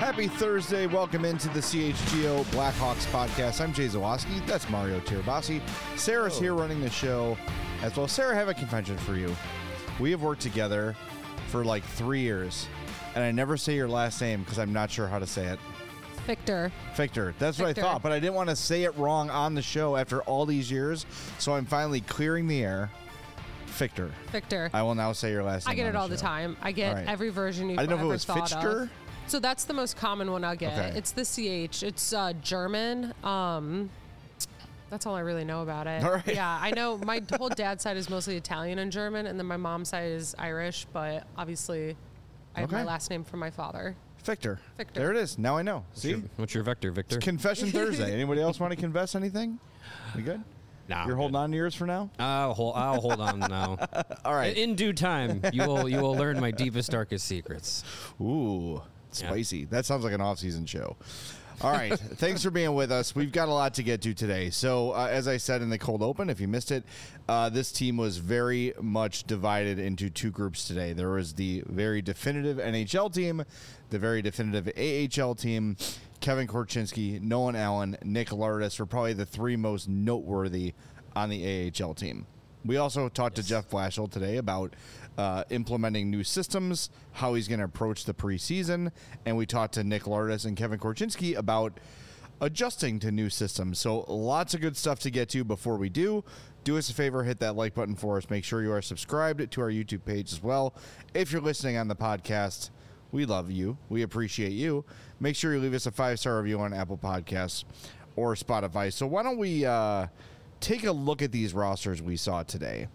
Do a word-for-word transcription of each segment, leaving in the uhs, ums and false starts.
Happy Thursday. Welcome into the C H G O Blackhawks podcast. I'm Jay Zawoski. That's Mario Tirabassi. Sarah's oh. here running the show as well. Sarah, I have a confession for you. We have worked together for like three years, and I never say your last name because I'm not sure how to say it. Victor. Victor. That's Victor. what I thought, but I didn't want to say it wrong on the show after all these years, so I'm finally clearing the air. Victor. Victor. I will now say your last name. I get it the all show. the time. I get right. every version you've I didn't know ever if it was thought Fichtger. of. So that's the most common one I'll get. Okay. It's the C H. It's uh, German. Um, that's all I really know about it. All right. Yeah, I know my whole dad's side is mostly Italian and German, and then my mom's side is Irish, but obviously I have Okay. my last name from my father. Victor. Victor. There it is. Now I know. See? What's your, what's your vector, Victor? Confession Thursday. Anybody else want to confess anything? We good? Nah, You're I'm holding good. on to yours for now? I'll hold, I'll hold on now. All right. In due time, you will you will learn my deepest, darkest secrets. Ooh, spicy. Yeah. That sounds like an off-season show. All right. Thanks for being with us. We've got a lot to get to today. So, uh, as I said in the cold open, if you missed it, uh, this team was very much divided into two groups today. There was the very definitive N H L team, the very definitive A H L team. Kevin Korchinski, Nolan Allen, Nick Lardis were probably the three most noteworthy on the A H L team. We also talked yes. to Jeff Blashill today about uh, implementing new systems, how he's going to approach the preseason, and we talked to Nick Lardis and Kevin Korchinski about adjusting to new systems. So lots of good stuff to get to. Before we do, do us a favor, hit that like button for us. Make sure you are subscribed to our YouTube page as well. If you're listening on the podcast, we love you. We appreciate you. Make sure you leave us a five-star review on Apple Podcasts or Spotify. So why don't we uh, take a look at these rosters we saw today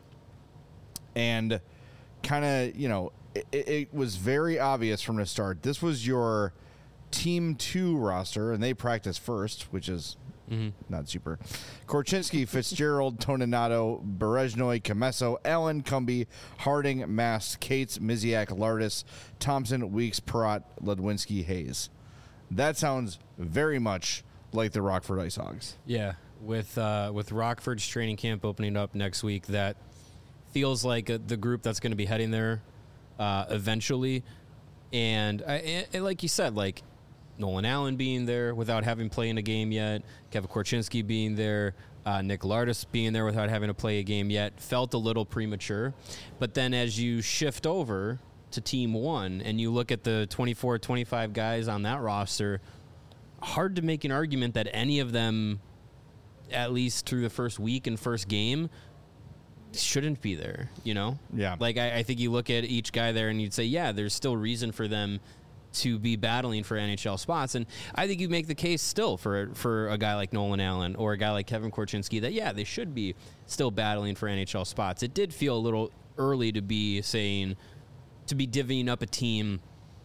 and kind of, you know, it, it was very obvious from the start. This was your Team two roster, and they practice first, which is mm-hmm. not super. Korchinski, Fitzgerald, Toninato, Berezhnoi, Comesso, Allen, Cumby, Harding, Mast, Cates, Miziak, Lardis, Thompson, Weeks, Perrott, Ledwinski, Hayes. That sounds very much like the Rockford Ice Hogs. Yeah, with uh, with Rockford's training camp opening up next week, that feels like a, the group that's going to be heading there uh, eventually. And, I, and like you said, like Nolan Allen being there without having played in a game yet, Kevin Korchinski being there, uh, Nick Lardis being there without having to play a game yet, felt a little premature. But then as you shift over to Team one and you look at the twenty-four, twenty-five guys on that roster, hard to make an argument that any of them, at least through the first week and first game, shouldn't be there, you know? Yeah. Like, I, I think you look at each guy there and you'd say, yeah, there's still reason for them to be battling for N H L spots. And I think you make the case still for for a guy like Nolan Allen or a guy like Kevin Korchinski that, yeah, they should be still battling for N H L spots. It did feel a little early to be saying, to be divvying up a team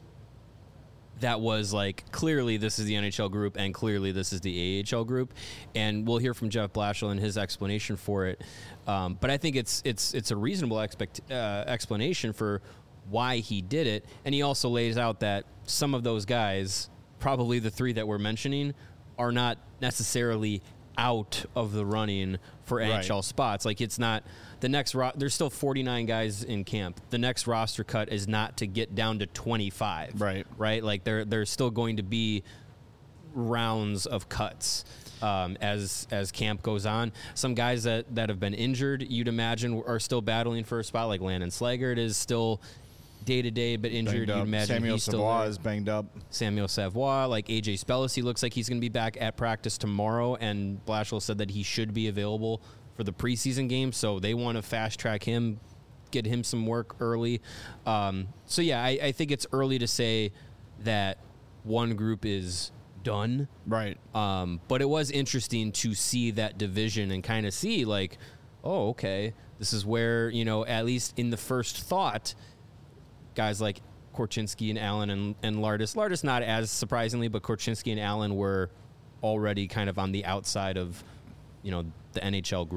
that was like, clearly this is the N H L group and clearly this is the A H L group. And we'll hear from Jeff Blashill and his explanation for it. Um, but I think it's it's it's a reasonable expect, uh, explanation for why he did it. And he also lays out that some of those guys, probably the three that we're mentioning, are not necessarily out of the running for N H L right. spots. Like, it's not the next ro- there's still forty-nine guys in camp. The next roster cut is not to get down to twenty-five. Right. Right. Like, there there's still going to be rounds of cuts um, as as camp goes on. Some guys that, that have been injured, you'd imagine, are still battling for a spot. Like Landon Slaggert is still day to day, but injured. You'd imagine Samuel he's Savoie still there. is banged up. Samuel Savoie, like A J Spellacy, looks like he's going to be back at practice tomorrow, and Blashill said that he should be available for the preseason game, so they want to fast track him, get him some work early. Um, so yeah, I, I think it's early to say that one group is done. Right. Um, but it was interesting to see that division and kind of see like, oh, okay, this is where, you know, at least in the first thought, guys like Korchinski and Allen and, and Lardis. Lardis not as surprisingly, but Korchinski and Allen were already kind of on the outside of, you know, the N H L group.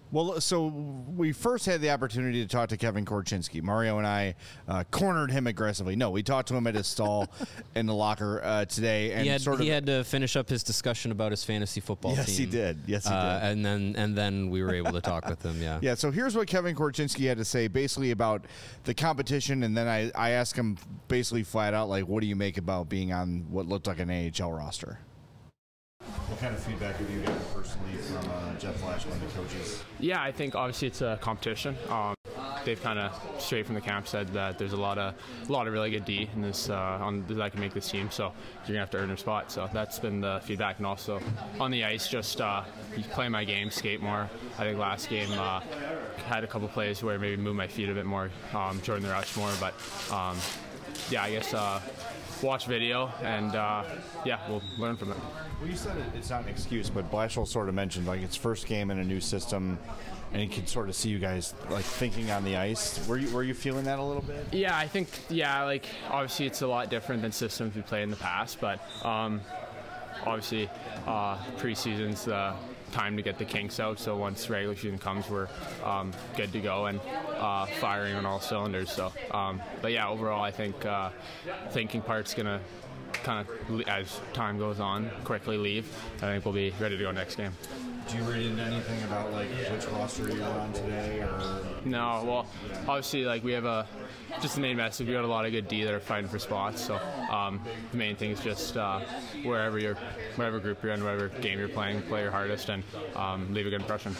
Well, so we first had the opportunity to talk to Kevin Korchinski. Mario and I uh, cornered him aggressively. No, we talked to him at his stall in the locker uh, today, and he had, sort of he had to finish up his discussion about his fantasy football yes, team. he did. Yes, he uh, did. And then and then we were able to talk with him. Yeah. Yeah. So here's what Kevin Korchinski had to say, basically about the competition, and then I I asked him basically flat out, like, what do you make about being on what looked like an N H L roster? What kind of feedback have you gotten personally from uh, Jeff Flashman, the coaches? Yeah, I think obviously it's a competition. Um, they've kind of straight from the camp said that there's a lot of a lot of really good D in this uh, on that can make this team. So you're gonna have to earn your spot. So that's been the feedback, and also on the ice, just uh, play my game, skate more. I think last game uh, had a couple plays where maybe move my feet a bit more, um, join the rush more. But um, yeah, I guess uh, watch video and uh, yeah, we'll learn from it. Well, you said it, it's not an excuse, but Blashill sort of mentioned like it's first game in a new system, and he could sort of see you guys like thinking on the ice. Were you were you feeling that a little bit? Yeah, I think yeah, like obviously it's a lot different than systems we played in the past, but um, obviously uh, preseason's the time to get the kinks out. So once regular season comes, we're um, good to go and uh, firing on all cylinders. So, um, but yeah, overall, I think uh, thinking part's gonna kind of, as time goes on, quickly leave. I think we'll be ready to go next game. Do you read into anything about like which roster you were on today, or no? Well, obviously, like we have a just the main message. We got a lot of good D that are fighting for spots. So um, the main thing is just uh, wherever you're, whatever group you're in, whatever game you're playing, play your hardest and um, leave a good impression.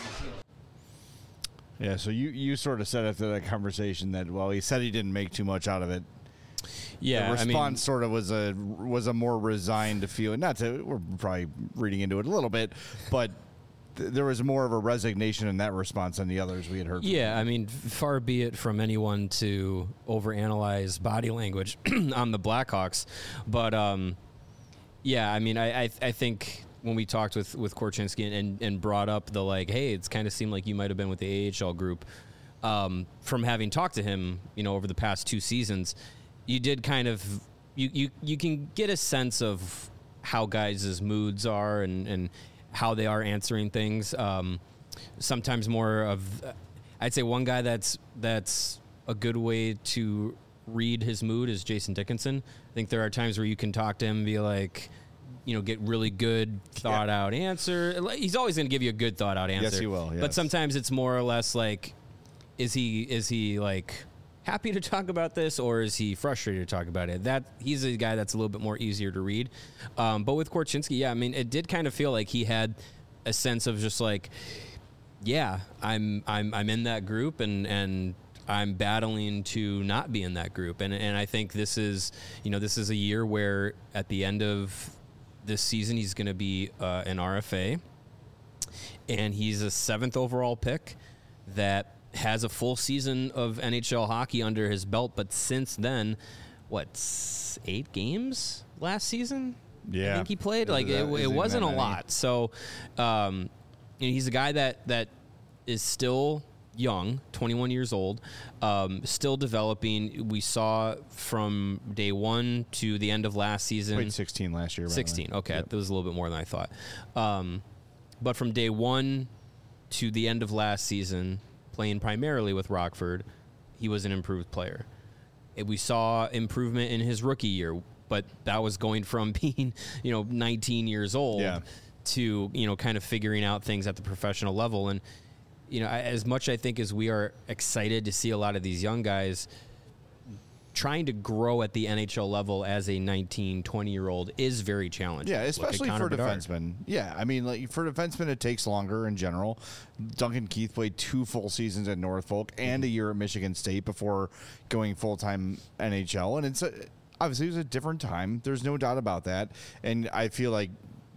Yeah. So you you sort of said after that conversation that well, he said he didn't make too much out of it. Yeah, the response I mean, sort of was a was a more resigned feeling. Not to we're probably reading into it a little bit, but th- there was more of a resignation in that response than the others we had heard. Yeah, I mean, far be it from anyone to overanalyze body language on the Blackhawks, but um, yeah, I mean, I I, I think. When we talked with, with Korchinski and, and brought up the like, hey, it's kind of seemed like you might have been with the A H L group. Um, from having talked to him, you know, over the past two seasons, you did kind of you, you, you can get a sense of how guys' moods are and, and how they are answering things. Um, sometimes more of, I'd say one guy that's that's a good way to read his mood is Jason Dickinson. I think there are times where you can talk to him and be like, you know, get really good thought yeah. out answer. He's always going to give you a good thought out answer. Yes, he will. Yes. But sometimes it's more or less like, is he is he like happy to talk about this or is he frustrated to talk about it? That he's a guy that's a little bit more easier to read. Um, but with Korchinski, yeah, I mean, it did kind of feel like he had a sense of just like, yeah, I'm I'm I'm in that group and and. I'm battling to not be in that group. And and I think this is, you know, this is a year where at the end of this season, he's going to be uh, an R F A, and he's a seventh overall pick that has a full season of N H L hockey under his belt. But since then, what, eight games last season? Yeah. I think he played. Is Like, that, it, it wasn't a many? lot. So, um, you know, he's a guy that, that is still young, twenty-one years old, um, still developing. We saw from day one to the end of last season. Played sixteen last year. sixteen. Okay, yep. that was a little bit more than I thought. Um, but from day one to the end of last season, playing primarily with Rockford, he was an improved player. And we saw improvement in his rookie year, but that was going from being, you know, nineteen years old yeah. to, you know, kind of figuring out things at the professional level. And you know, as much I think as we are excited to see a lot of these young guys trying to grow at the N H L level as a nineteen, twenty-year-old is very challenging. Yeah, especially for Bedard. defensemen. Yeah, I mean, like for defensemen, it takes longer in general. Duncan Keith played two full seasons at Norfolk and a year at Michigan State before going full-time N H L. And it's a, obviously it was a different time. There's no doubt about that. And I feel like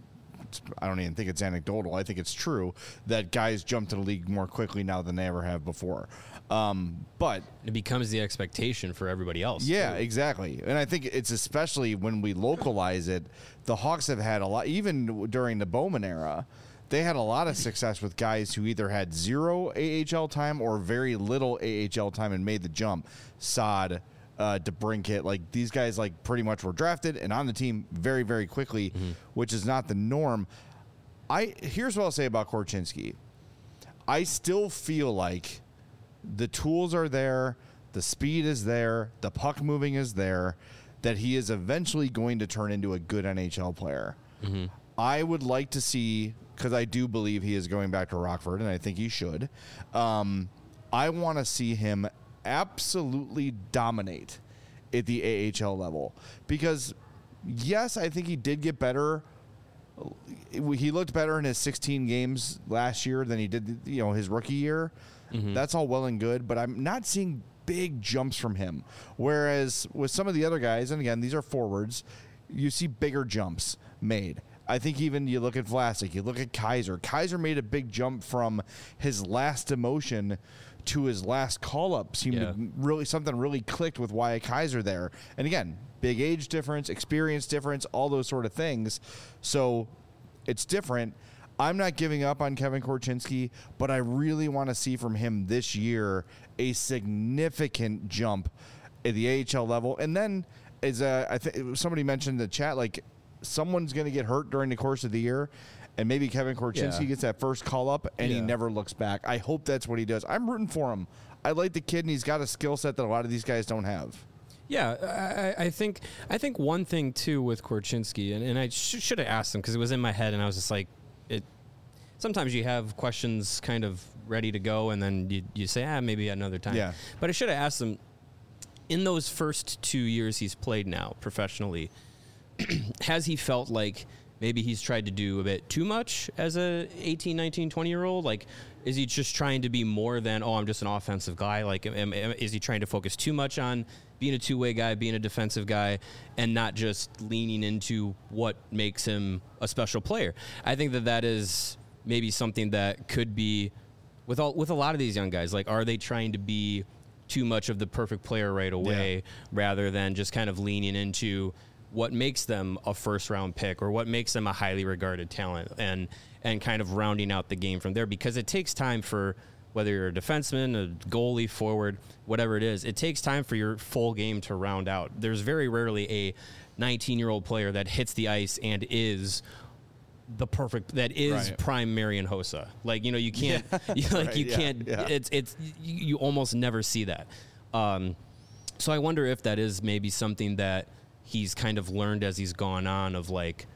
I don't even think it's anecdotal. I think it's true that guys jump to the league more quickly now than they ever have before. Um, but it becomes the expectation for everybody else. Yeah, too. exactly. And I think it's especially when we localize it, the Hawks have had a lot, even during the Bowman era, they had a lot of success with guys who either had zero A H L time or very little A H L time and made the jump. Sod, Uh, DeBrincat, like these guys, like pretty much were drafted and on the team very, very quickly, mm-hmm. which is not the norm. I here's what I'll say about Korchinski. I still feel like the tools are there, the speed is there, the puck moving is there, that he is eventually going to turn into a good N H L player. Mm-hmm. I would like to see, because I do believe he is going back to Rockford, and I think he should. Um, I want to see him absolutely dominate at the A H L level. Because, yes, I think he did get better. He looked better in his sixteen games last year than he did, you know, his rookie year. Mm-hmm. That's all well and good, but I'm not seeing big jumps from him. Whereas with some of the other guys, and again, these are forwards, you see bigger jumps made. I think even you look at Vlasic, you look at Kaiser. Kaiser made a big jump from his last demotion to his last call-up. Seemed yeah. to really something really clicked with Wyatt Kaiser there. And again, big age difference, experience difference, all those sort of things. So it's different. I'm not giving up on Kevin Korchinski, but I really want to see from him this year a significant jump at the A H L level. And then, as uh, I think somebody mentioned in the chat, like someone's going to get hurt during the course of the year, and maybe Kevin Korchinski yeah. gets that first call up and yeah. he never looks back. I hope that's what he does. I'm rooting for him. I like the kid, and he's got a skill set that a lot of these guys don't have. Yeah, I, I think I think one thing too with Korchinski, and, and I sh- should have asked him because it was in my head, and I was just like, it. Sometimes you have questions kind of ready to go, and then you you say, ah, maybe another time. Yeah. But I should have asked him. In those first two years he's played now professionally, has he felt like maybe he's tried to do a bit too much as a eighteen, nineteen, twenty-year-old? Like, is he just trying to be more than, oh, I'm just an offensive guy? Like, am, am, is he trying to focus too much on being a two-way guy, being a defensive guy, and not just leaning into what makes him a special player? I think that that is maybe something that could be, with all, with a lot of these young guys, like, are they trying to be too much of the perfect player right away yeah. rather than just kind of leaning into what makes them a first-round pick or what makes them a highly regarded talent, and and kind of rounding out the game from there? Because it takes time for, whether you're a defenseman, a goalie, forward, whatever it is, it takes time for your full game to round out. There's very rarely a nineteen-year-old player that hits the ice and is the perfect, that is right. prime Marian Hossa. Like, you know, you can't, yeah. you, like right, you yeah, can't, yeah. it's, it's, you, you almost never see that. Um, so I wonder if that is maybe something that he's kind of learned as he's gone on, of like,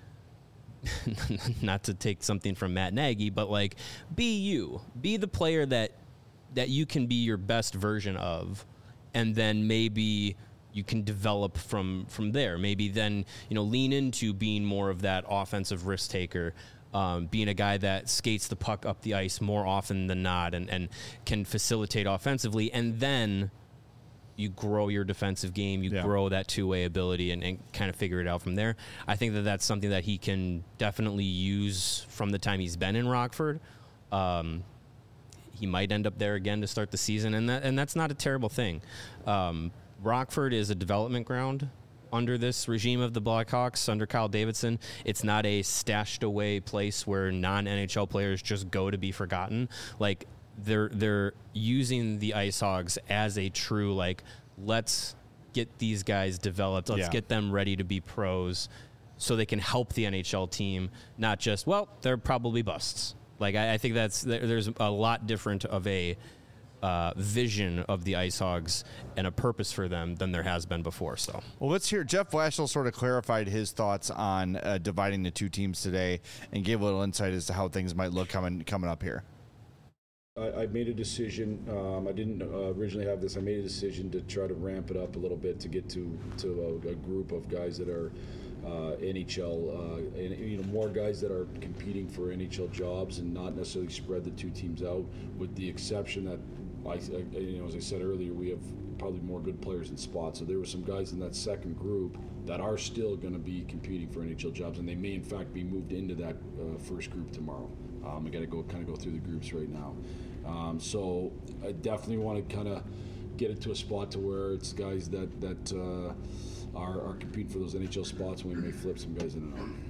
not to take something from Matt Nagy, but like, be you, be the player that, that you can be your best version of. And then maybe you can develop from, from there. Maybe then, you know, lean into being more of that offensive risk taker, um, being a guy that skates the puck up the ice more often than not, and, and can facilitate offensively. And then you grow your defensive game, you yeah. grow that two-way ability, and, and kind of figure it out from there. I think that that's something that he can definitely use from the time he's been in Rockford. Um, he might end up there again to start the season, and that and that's not a terrible thing. Um, Rockford is a development ground under this regime of the Blackhawks, under Kyle Davidson. It's not a stashed away place where non-N H L players just go to be forgotten. Like, they're they're using the Ice Hogs as a true, like, let's get these guys developed, let's yeah. get them ready to be pros so they can help the N H L team, not just, well, they're probably busts. Like, I, I think that's there's a lot different of a Uh, vision of the Ice Hogs and a purpose for them than there has been before. So, well, let's hear. Jeff Blashill sort of clarified his thoughts on uh, dividing the two teams today and gave a little insight as to how things might look coming coming up here. I, I made a decision. Um, I didn't uh, originally have this. I made a decision to try to ramp it up a little bit to get to to a, a group of guys that are uh, N H L, uh, and you know, more guys that are competing for N H L jobs, and not necessarily spread the two teams out, with the exception that, I, I, you know, as I said earlier, we have probably more good players in spots. So there were some guys in that second group that are still going to be competing for N H L jobs, and they may in fact be moved into that uh, first group tomorrow. Um, I got to go kind of go through the groups right now. Um, so I definitely want to kind of get it to a spot to where it's guys that that uh, are, are competing for those N H L spots, and we may flip some guys in and out.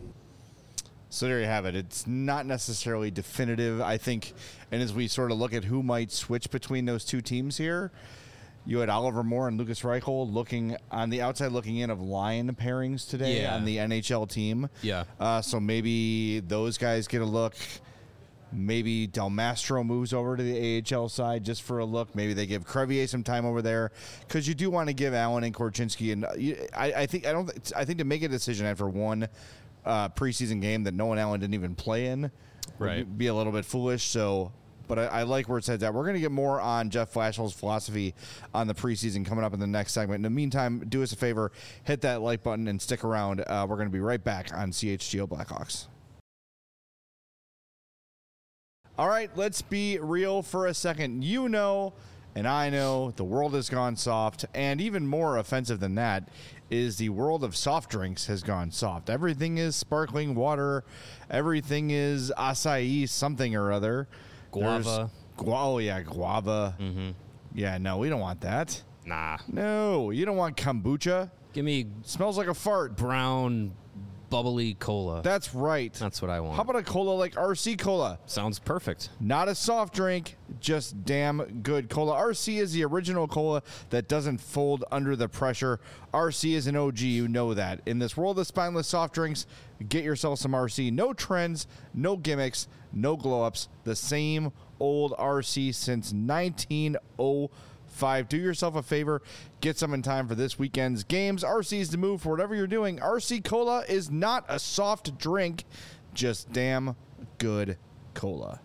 So there you have it. It's not necessarily definitive, I think. And as we sort of look at who might switch between those two teams here, you had Oliver Moore and Lucas Reichel looking on the outside looking in of line pairings today yeah. on the N H L team. Yeah. Uh, so maybe those guys get a look. Maybe Del Mastro moves over to the A H L side just for a look. Maybe they give Crevier some time over there because you do want to give Allen and Korchinski. And you, I, I think I don't. I think to make a decision after one uh, preseason game that Nolan Allen didn't even play in, Right. would be a little bit foolish. So, but I, I like where it says that. We're going to get more on Jeff Flashell's philosophy on the preseason coming up in the next segment. In the meantime, do us a favor, hit that like button and stick around. Uh, we're going to be right back on C H G O Blackhawks. All right, let's be real for a second. You know, and I know, the world has gone soft, and even more offensive than that is the world of soft drinks has gone soft. Everything is sparkling water. Everything is acai something or other. Guava. Gu- oh, yeah, guava. Mm-hmm. Yeah, no, we don't want that. Nah. No, you don't want kombucha. Give me Smells like a fart. brown, bubbly cola. That's right. That's what I want. How about a cola like R C Cola? Sounds perfect. Not a soft drink, just damn good cola. R C is the original cola that doesn't fold under the pressure. R C is an O G, you know that. In this world of spineless soft drinks, get yourself some R C. No trends, no gimmicks, no glow-ups. The same old R C since nineteen oh five. Do yourself a favor. Get some in time for this weekend's games. R C's the move for whatever you're doing. R C Cola is not a soft drink, just damn good cola.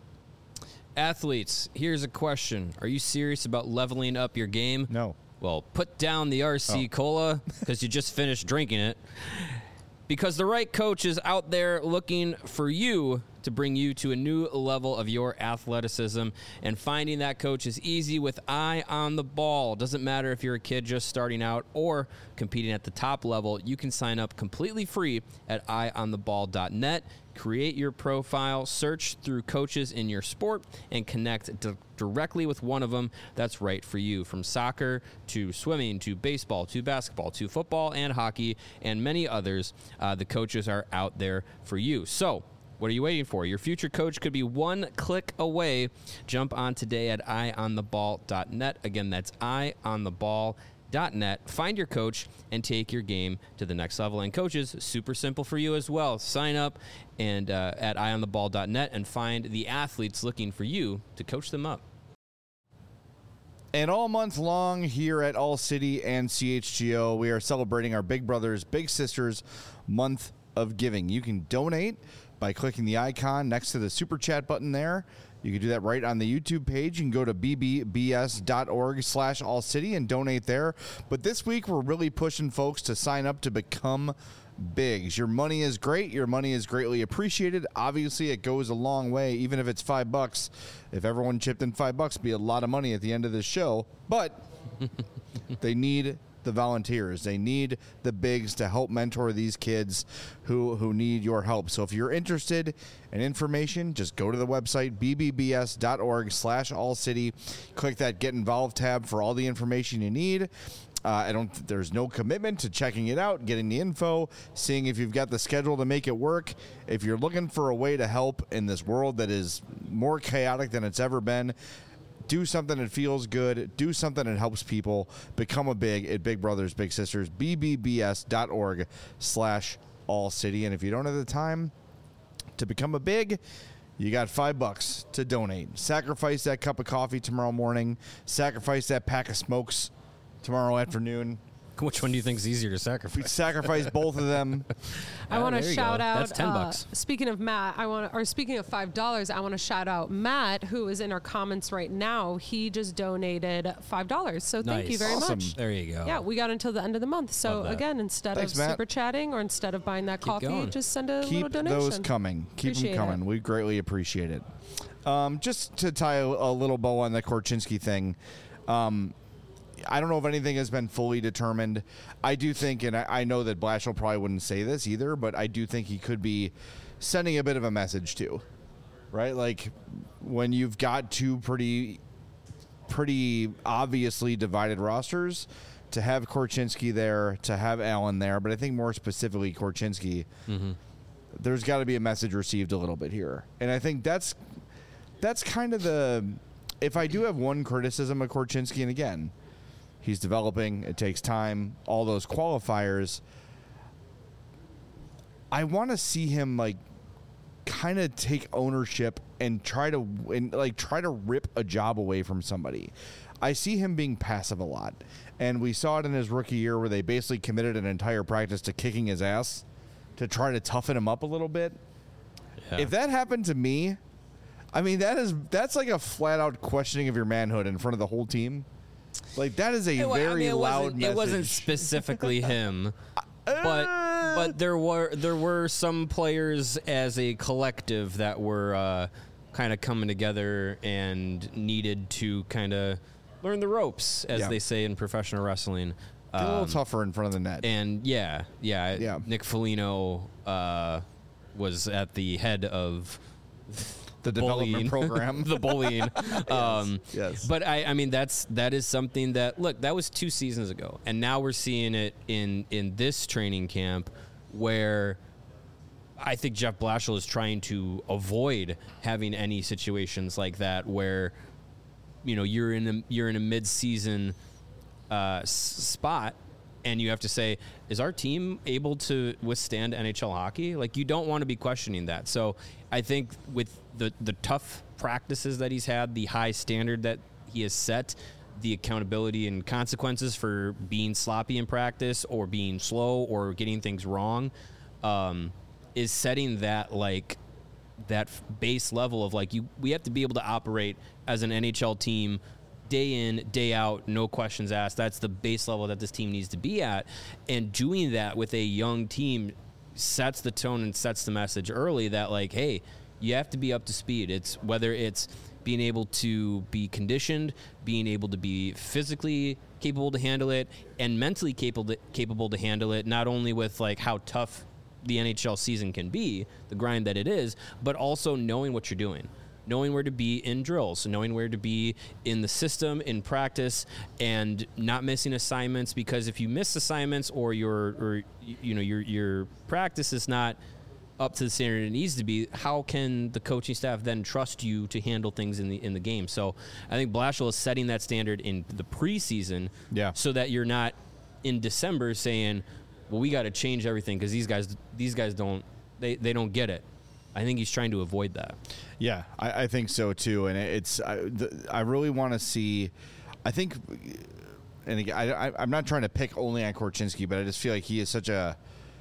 Athletes, here's a question. Are you serious about leveling up your game? No. Well, put down the R C Oh. Cola because you just finished drinking it. Because the right coach is out there looking for you to bring you to a new level of your athleticism. And finding that coach is easy with Eye on the Ball. Doesn't matter if you're a kid just starting out or competing at the top level. You can sign up completely free at eye on the ball dot net. Create your profile, search through coaches in your sport, and connect d- directly with one of them that's right for you. From soccer to swimming to baseball to basketball to football and hockey and many others, uh, the coaches are out there for you. So, what are you waiting for? Your future coach could be one click away. Jump on today at eye on the ball dot net. Again, that's eye on the ball dot net. Find your coach and take your game to the next level. And coaches, super simple for you as well. Sign up and uh, at eye on the ball dot net and find the athletes looking for you to coach them up. And all month long here at All City and C H G O, we are celebrating our Big Brothers, Big Sisters month of giving. You can donate by clicking the icon next to the Super Chat button there. You can do that right on the YouTube page. You can go to b b b s dot org slash all city and donate there. But this week, we're really pushing folks to sign up to become bigs. Your money is great. Your money is greatly appreciated. Obviously, it goes a long way, even if it's five bucks. If everyone chipped in five bucks, it'd be a lot of money at the end of this show. But they need the volunteers. They need the bigs to help mentor these kids who, who need your help. So if you're interested in information, just go to the website, b b b s dot org slash all city. Click that Get Involved tab for all the information you need. Uh, I don't. There's no commitment to checking it out, getting the info, seeing if you've got the schedule to make it work. If you're looking for a way to help in this world that is more chaotic than it's ever been, do something that feels good. Do something that helps people. Become a big at Big Brothers Big Sisters. b b b s dot org slash all city. And if you don't have the time to become a big, you got five bucks to donate. Sacrifice that cup of coffee tomorrow morning. Sacrifice that pack of smokes tomorrow afternoon. Which one do you think is easier to sacrifice? Sacrifice both of them. I want to there you shout go. out. That's ten uh, bucks. Speaking of Matt, I want, or speaking of five dollars, I want to shout out Matt, who is in our comments right now. He just donated five dollars. So thank you Nice. very Awesome. much. There you go. Yeah, we got until the end of the month. So Love that. again, instead Thanks, of Matt. super chatting or instead of buying that coffee, going. just send a little Keep donation. those coming. Keep Appreciate them coming. it. We greatly appreciate it. Um, just to tie a, a little bow on the Korchinski thing, um, I don't know if anything has been fully determined. I do think, and I, I know that Blashill probably wouldn't say this either, but I do think he could be sending a bit of a message too, right? Like when you've got two pretty, pretty obviously divided rosters, to have Korchinski there, to have Allen there, but I think more specifically Korchinski, Mm-hmm. there's got to be a message received a little bit here. And I think that's that's kind of the, if I do have one criticism of Korchinski, and again, he's developing, it takes time, all those qualifiers, I want to see him like kind of take ownership and try to and like try to rip a job away from somebody. I see him being passive a lot, and we saw it in his rookie year where they basically committed an entire practice to kicking his ass to try to toughen him up a little bit. Yeah. If that happened to me, I mean that is that's like a flat out questioning of your manhood in front of the whole team. Like that is a it, very I mean, it loud message. It wasn't specifically him, but but there were there were some players as a collective that were uh, kind of coming together and needed to kind of learn the ropes, as yeah. they say in professional wrestling. Um, a little tougher in front of the net. And yeah, yeah, yeah. Nick Foligno uh, was at the head of the bullying. development program, the bullying. yes, um, yes. But I, I mean, that's that is something that look that was two seasons ago, and now we're seeing it in in this training camp where I think Jeff Blashill is trying to avoid having any situations like that where, you know, you're in a, you're in a mid-season uh, s- spot, and you have to say, is our team able to withstand N H L hockey? Like, you don't want to be questioning that. So I think with the the tough practices that he's had, the high standard that he has set, the accountability and consequences for being sloppy in practice or being slow or getting things wrong, um, is setting that like that base level of like you we have to be able to operate as an N H L team day in, day out, no questions asked. That's the base level that this team needs to be at. And doing that with a young team sets the tone and sets the message early that like, hey, you have to be up to speed. It's whether it's being able to be conditioned, being able to be physically capable to handle it, and mentally capable to, capable to handle it, not only with like how tough the N H L season can be, the grind that it is, but also knowing what you're doing, knowing where to be in drills, knowing where to be in the system, in practice, and not missing assignments, because if you miss assignments or your or you know your your practice is not up to the standard it needs to be, how can the coaching staff then trust you to handle things in the in the game? So I think Blashill is setting that standard in the preseason, yeah. so that you're not in December saying, well, we got to change everything because these guys these guys don't they, they don't get it. I think he's trying to avoid that. Yeah, I, I think so too, and it's I, the, I really want to see. I think, and again, I, I, I'm not trying to pick only on Korchinski, but I just feel like he is such a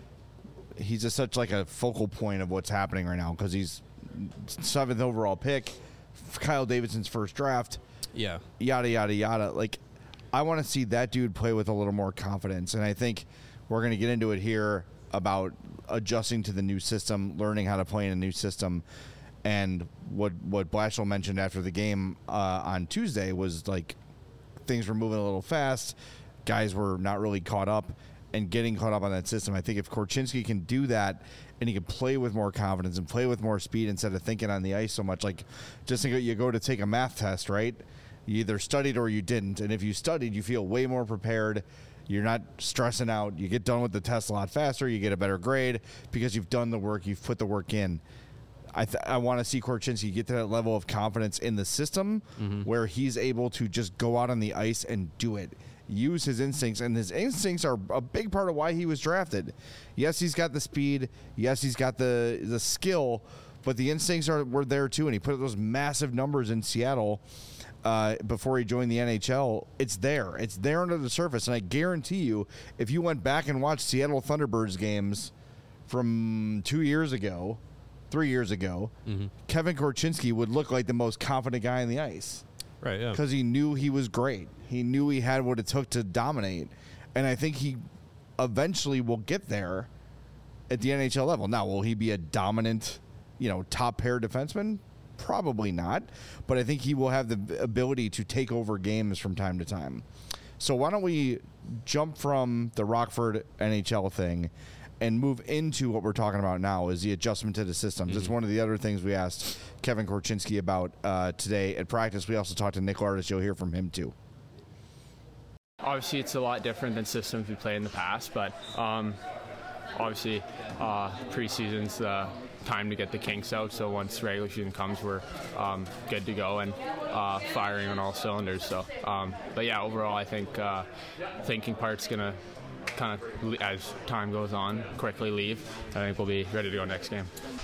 he's just such like a focal point of what's happening right now because he's seventh overall pick, Kyle Davidson's first draft. Yeah, yada yada yada. Like, I want to see that dude play with a little more confidence, and I think we're going to get into it here about adjusting to the new system, learning how to play in a new system. And what what Blashill mentioned after the game uh, on Tuesday was like things were moving a little fast. Guys were not really caught up and getting caught up on that system. I think if Korchinski can do that and he can play with more confidence and play with more speed instead of thinking on the ice so much, like just think you go to take a math test, right? You either studied or you didn't. And if you studied, you feel way more prepared. You're not stressing out. You get done with the test a lot faster. You get a better grade because you've done the work. You've put the work in. I th- I want to see Korchinski get to that level of confidence in the system mm-hmm. where he's able to just go out on the ice and do it. Use his instincts, and his instincts are a big part of why he was drafted. Yes, he's got the speed. Yes, he's got the the skill, but the instincts are were there too, and he put up those massive numbers in Seattle uh, before he joined the N H L. It's there. It's there under the surface, and I guarantee you, if you went back and watched Seattle Thunderbirds games from two years ago, three years ago, mm-hmm. Kevin Korchinski would look like the most confident guy on the ice. Right, yeah. Because he knew he was great. He knew he had what it took to dominate. And I think he eventually will get there at the N H L level. Now, will he be a dominant, you know, top pair defenseman? Probably not. But I think he will have the ability to take over games from time to time. So why don't we jump from the Rockford N H L thing and move into what we're talking about now is the adjustment to the systems. Mm-hmm. It's one of the other things we asked Kevin Korchinski about uh, today at practice. We also talked to Nick Lardis. You'll hear from him too. Obviously, it's a lot different than systems we played in the past, but um, obviously, uh, preseason's the time to get the kinks out. So once regular season comes, we're um, good to go and uh, firing on all cylinders. So, um, but yeah, overall, I think uh, thinking part's gonna kind of, as time goes on, quickly leave. I think we'll be ready to go next game.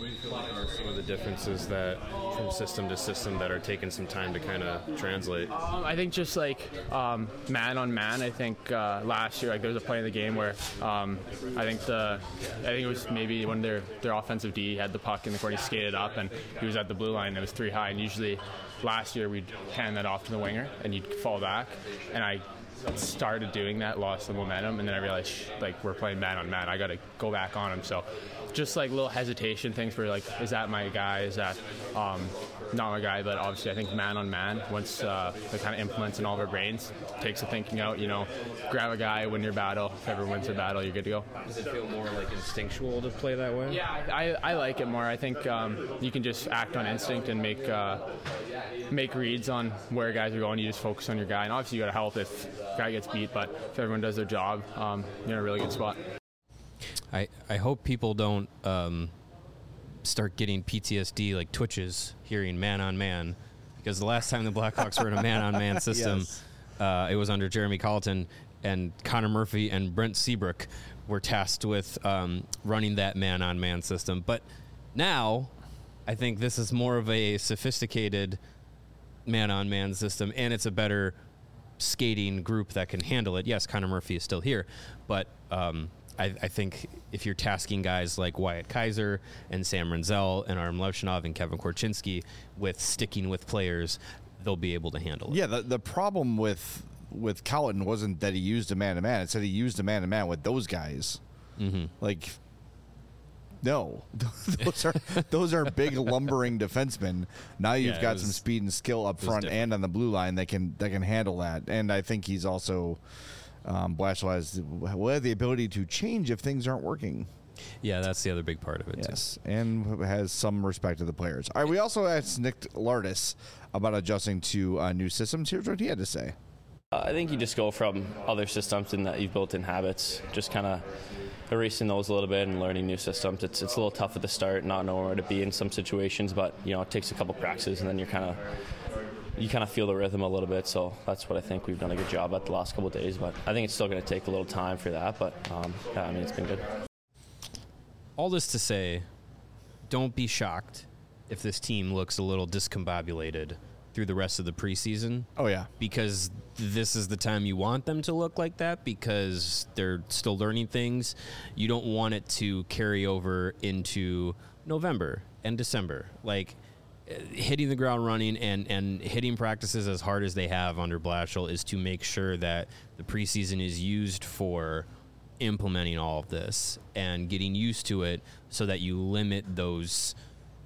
What do you feel like are some of the differences that from system to system that are taking some time to kind of translate? Um, I think just like um, man on man. I think uh, last year, like there was a play in the game where um, I think the I think it was maybe when their their offensive D had the puck in the corner, he skated up and he was at the blue line. And it was three high, and usually last year we'd hand that off to the winger and you'd fall back, and I started doing that, lost the momentum, and then I realized sh- like we're playing man on man. I got to go back on him. So just like little hesitation things where like, is that my guy? Is that um, not my guy? But obviously, I think man on man, once uh, it kind of implements in all of our brains, takes the thinking out. You know, grab a guy, win your battle. If everyone wins their battle, you're good to go. Does it feel more like instinctual to play that way? Yeah, I, I like it more. I think um, you can just act on instinct and make uh, make reads on where guys are going. You just focus on your guy, and obviously you got to help if guy gets beat. But if everyone does their job, um, you're in a really good spot. I, I hope people don't um, start getting P T S D like twitches hearing man on man, because the last time the Blackhawks were in a man on man system, yes. uh, it was under Jeremy Colleton, and Connor Murphy and Brent Seabrook were tasked with um, running that man on man system. But now I think this is more of a sophisticated man on man system, and it's a better skating group that can handle it. Yes, Connor Murphy is still here, but um, I, I think if you're tasking guys like Wyatt Kaiser and Sam Renzel and Artem Levshinov and Kevin Korchinski with sticking with players, they'll be able to handle it. Yeah, the, the problem with with Colleton wasn't that he used a man-to-man. It said he used a man-to-man with those guys. Mm-hmm. Like, no. those are those are big, lumbering defensemen. Now you've Yeah, got was- some speed and skill up front different. and on the blue line that can that can handle that. And I think he's also... Um, Blashill has well, the ability to change if things aren't working. Yeah, that's the other big part of it, Yes, and has some respect to the players. All right, we also asked Nick Lardis about adjusting to uh, new systems. Here's what he had to say. Uh, I think you just go from other systems and that you've built in habits, just kind of erasing those a little bit and learning new systems. It's it's a little tough at the start, not knowing where to be in some situations, but you know it takes a couple practices and then you're kind of you kind of feel the rhythm a little bit. So that's what I think we've done a good job at the last couple of days. But I think it's still going to take a little time for that. But um, yeah, I mean it's been good. All this to say, don't be shocked if this team looks a little discombobulated through the rest of the preseason. Oh, yeah. Because this is the time you want them to look like that, because they're still learning things. You don't want it to carry over into November and December. Like, uh, hitting the ground running and, and hitting practices as hard as they have under Blashill is to make sure that the preseason is used for implementing all of this and getting used to it so that you limit those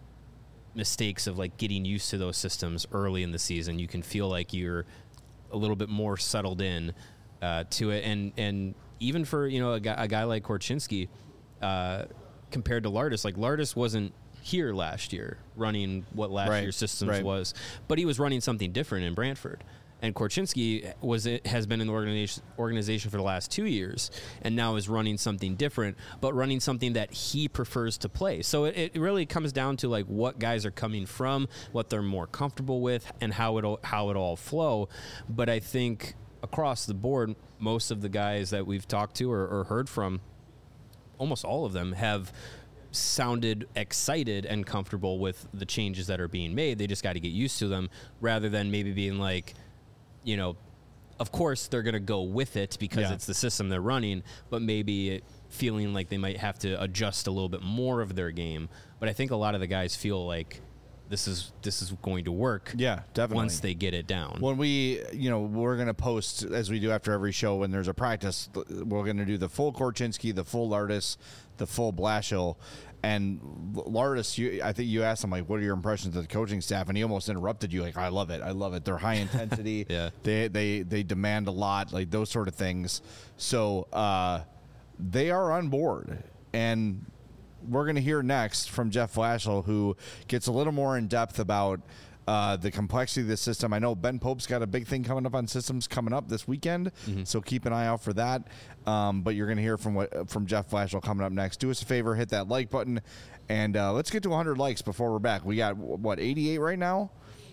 mistakes of like getting used to those systems early in the season. You can feel like you're a little bit more settled in uh, to it. And, and even for, you know, a guy, a guy like Korchinski, uh, compared to Lardis, like Lardis wasn't here last year running what last Right, year's systems right. was, but he was running something different in Brantford. And Korchinski was it has been in the organization organization for the last two years, and now is running something different, but running something that he prefers to play. So it, it really comes down to like what guys are coming from, what they're more comfortable with, and how it how it all flow. But I think across the board, most of the guys that we've talked to or, or heard from, almost all of them have sounded excited and comfortable with the changes that are being made. They just got to get used to them, rather than maybe being like, you know, of course they're going to go with it because Yeah. it's the system they're running, but maybe it feeling like they might have to adjust a little bit more of their game. But I think a lot of the guys feel like this is this is going to work. Yeah, definitely. Once they get it down. When we, you know, we're going to post, as we do after every show when there's a practice, we're going to do the full Korchinski, the full Lardis, the full Blashill. And Lardis, you, I think you asked him, like, what are your impressions of the coaching staff? And he almost interrupted you, like, I love it. I love it. They're high intensity. Yeah. They, they, they demand a lot, like those sort of things. So uh, they are on board. And we're going to hear next from Jeff Blashill, who gets a little more in depth about uh, the complexity of the system. I know Ben Pope's got a big thing coming up on systems coming up this weekend, mm-hmm. so keep an eye out for that. Um, but you're going to hear from what from Jeff Blashill coming up next. Do us a favor, hit that like button, and uh, let's get to one hundred likes before we're back. We got, what, eighty-eight right now?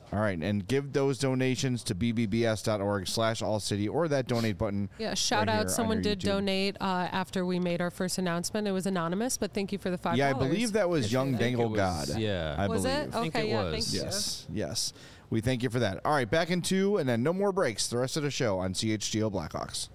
All right, and give those donations to b b b s dot org slash all city or that donate button. Yeah, shout right here out. on Someone your did YouTube. donate uh, after we made our first announcement. It was anonymous, but thank you for the five dollars. Yeah, I believe that was Young I think Dangle it was- God. yeah. I Was believe. it? I think Okay, it yeah, was. thank you. Yes, yes. We thank you for that. All right, back in two, and then no more breaks. The rest of the show on C H G O Blackhawks.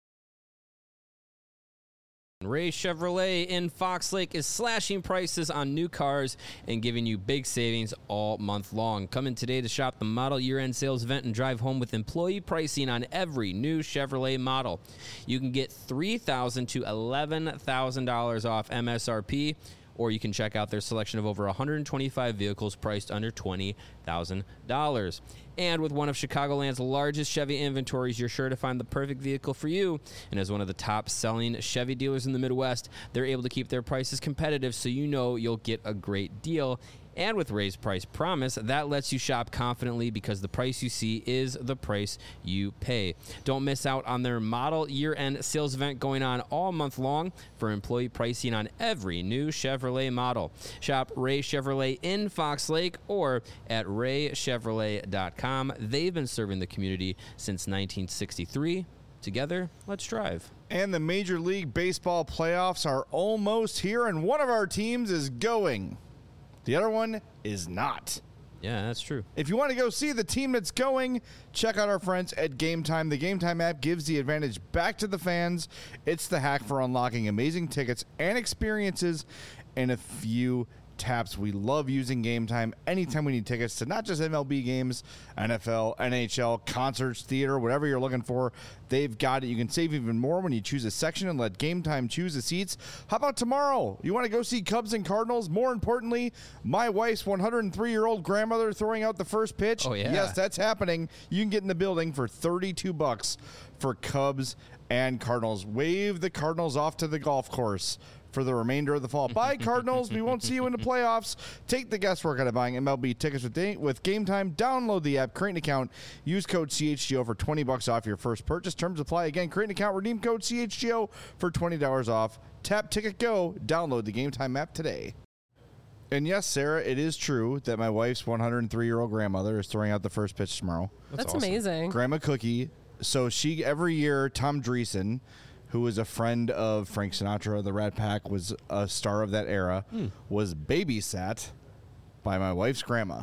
Ray Chevrolet in Fox Lake is slashing prices on new cars and giving you big savings all month long. Come in today to shop the model year-end sales event and drive home with employee pricing on every new Chevrolet model. You can get three thousand dollars to eleven thousand dollars off M S R P, or you can check out their selection of over one hundred twenty-five vehicles priced under twenty thousand dollars. And with one of Chicagoland's largest Chevy inventories, you're sure to find the perfect vehicle for you. And as one of the top-selling Chevy dealers in the Midwest, they're able to keep their prices competitive, so you know you'll get a great deal. And with Ray's Price Promise, that lets you shop confidently because the price you see is the price you pay. Don't miss out on their model year-end sales event going on all month long for employee pricing on every new Chevrolet model. Shop Ray Chevrolet in Fox Lake or at ray chevrolet dot com. They've been serving the community since nineteen sixty-three. Together, let's drive. And the Major League Baseball playoffs are almost here, and one of our teams is going. The other one is not. Yeah, that's true. If you want to go see the team that's going, check out our friends at Game Time. The Game Time app gives the advantage back to the fans. It's the hack for unlocking amazing tickets and experiences in a few taps. We love using Game Time anytime we need tickets to not just M L B games, N F L, N H L, concerts, theater, whatever you're looking for. They've got it. You can save even more when you choose a section and let Game Time choose the seats. How about tomorrow? You want to go see Cubs and Cardinals? More importantly, my wife's one hundred three-year-old grandmother throwing out the first pitch. Oh, yeah. Yes, that's happening. You can get in the building for thirty-two bucks for Cubs and Cardinals. Wave the Cardinals off to the golf course for the remainder of the fall. Bye, Cardinals. We won't see you in the playoffs. Take the guesswork out of buying M L B tickets with, da- with Game Time. Download the app, create an account, use code C H G O for twenty bucks off your first purchase. Terms apply. Again, create an account, redeem code C H G O for twenty dollars off. Tap Ticket Go. Download the Game Time app today. And yes, Sarah, it is true that my wife's one hundred three-year-old grandmother is throwing out the first pitch tomorrow. That's, awesome. amazing. Grandma Cookie. So she, every year, Tom Dreesen, who was a friend of Frank Sinatra, the Rat Pack, was a star of that era, Hmm. was babysat by my wife's grandma.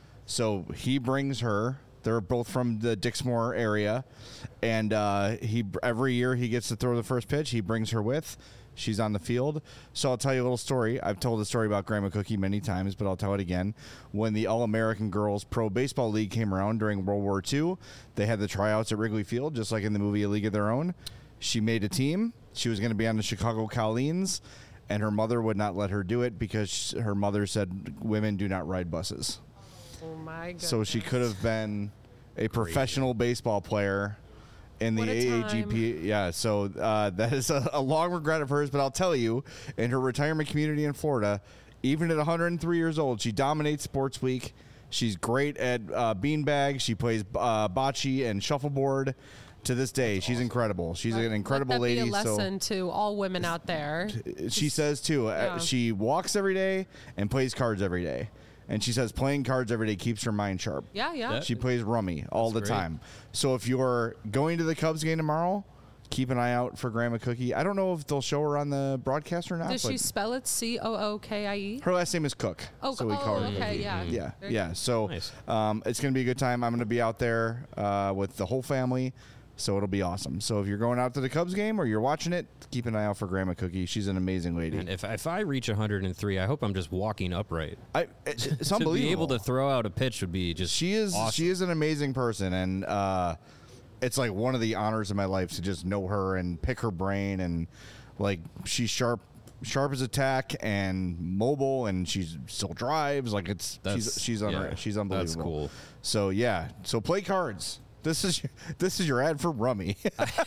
So he brings her. They're both from the Dixmoor area, and uh, he every year he gets to throw the first pitch. He brings her with. She's on the field. So I'll tell you a little story. I've told the story about Grandma Cookie many times, but I'll tell it again. When the All-American Girls Pro Baseball League came around during World War Two, they had the tryouts at Wrigley Field, just like in the movie A League of Their Own. She made a team. She was going to be on the Chicago Colleens, and her mother would not let her do it because her mother said women do not ride buses. Oh, my goodness. So she could have been a professional baseball player in the What a A A G P. Yeah, so uh, that is a, a long regret of hers, but I'll tell you, in her retirement community in Florida, even at one hundred three years old, she dominates Sports Week. She's great at uh, beanbag. She plays uh, bocce and shuffleboard. To this day, she's incredible. She's an incredible Let that lady. Be a so lesson to all women out there. she says too. Uh, Yeah. she walks every day and plays cards every day, and she says playing cards every day keeps her mind sharp. Yeah, yeah. That- She plays rummy all the That's great. time. So if you're going to the Cubs game tomorrow, keep an eye out for Grandma Cookie. I don't know if they'll show her on the broadcast or not. Does but she spell it C O O K I E? her last name is Cook. Oh, so we oh, call her okay, Cookie. yeah. Yeah, Very yeah. So Nice. um, it's going to be a good time. I'm going to be out there uh, with the whole family. So it'll be awesome. So if you're going out to the Cubs game or you're watching it, keep an eye out for Grandma Cookie. She's an amazing lady. And if, if I reach one hundred three, I hope I'm just walking upright. I, it's it's To unbelievable. be able to throw out a pitch would be just She is awesome. she is an amazing person, and uh, it's like one of the honors of my life to just know her and pick her brain, and like she's sharp, sharp as a tack and mobile, and she still drives. Like it's That's- she's she's unreal. yeah, she's that's unbelievable. cool. So yeah, so play cards. This is your, this is your ad for Rummy.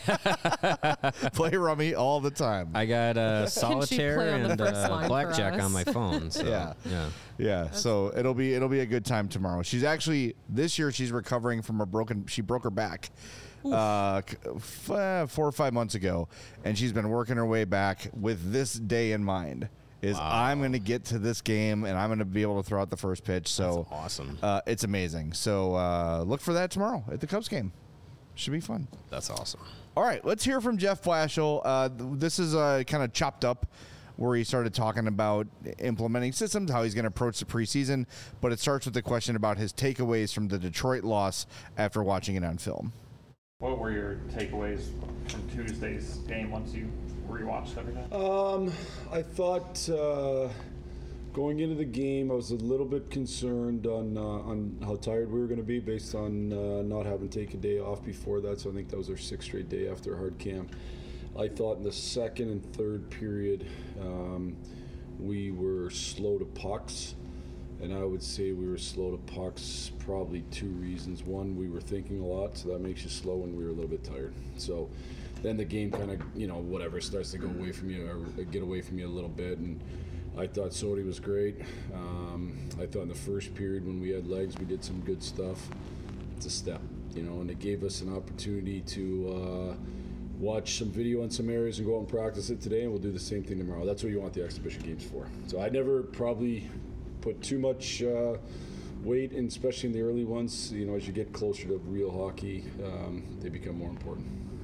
Play Rummy all the time. I got uh, solitaire play on the and first uh, line for blackjack us? on my phone. So, Yeah. yeah. Yeah, so it'll be it'll be a good time tomorrow. She's actually this year she's recovering from a broken. She broke her back uh, c- f- uh, four or five months ago, and she's been working her way back with this day in mind. is Wow. I'm going to get to this game and I'm going to be able to throw out the first pitch. So That's awesome. Uh, it's amazing. So uh, look for that tomorrow at the Cubs game. Should be fun. That's awesome. All right, let's hear from Jeff Blashill. Uh, th- this is uh, kind of chopped up where he started talking about implementing systems, how he's going to approach the preseason, but it starts with the question about his takeaways from the Detroit loss after watching it on film. What were your takeaways from Tuesday's game once you rewatched everything? Um, I thought uh, going into the game, I was a little bit concerned on uh, on how tired we were going to be based on uh, not having taken a day off before that. So I think that was our sixth straight day after a hard camp. I thought in the second and third period, um, we were slow to pucks. And I would say we were slow to pucks, probably two reasons. One, we were thinking a lot, so that makes you slow when we were a little bit tired. So then the game kind of, you know, whatever, starts to go away from you or get away from you a little bit. And I thought Sodi was great. Um, I thought in the first period when we had legs, we did some good stuff. It's a step, you know, and it gave us an opportunity to uh, watch some video on some areas and go out and practice it today, and we'll do the same thing tomorrow. That's what you want the exhibition games for. So I never probably put too much uh, weight, and especially in the early ones. You know, as you get closer to real hockey, um, they become more important.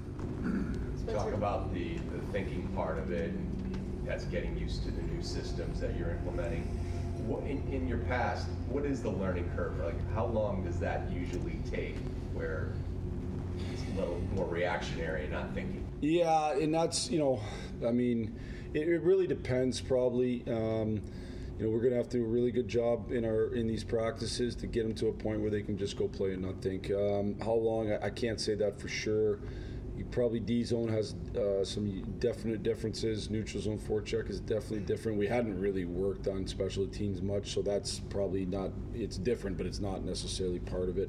Talk about the, the thinking part of it, and that's getting used to the new systems that you're implementing. What, in, in your past, what is the learning curve? Like, how long does that usually take where it's a little more reactionary, not thinking? Yeah, and that's, you know, I mean, it, it really depends probably. Um, You know, we're going to have to do a really good job in our in these practices to get them to a point where they can just go play and not think. Um, how long? I, I can't say that for sure. You probably D zone has uh, some definite differences. Neutral zone forecheck is definitely different. We hadn't really worked on special teams much, so that's probably not. It's different, but it's not necessarily part of it.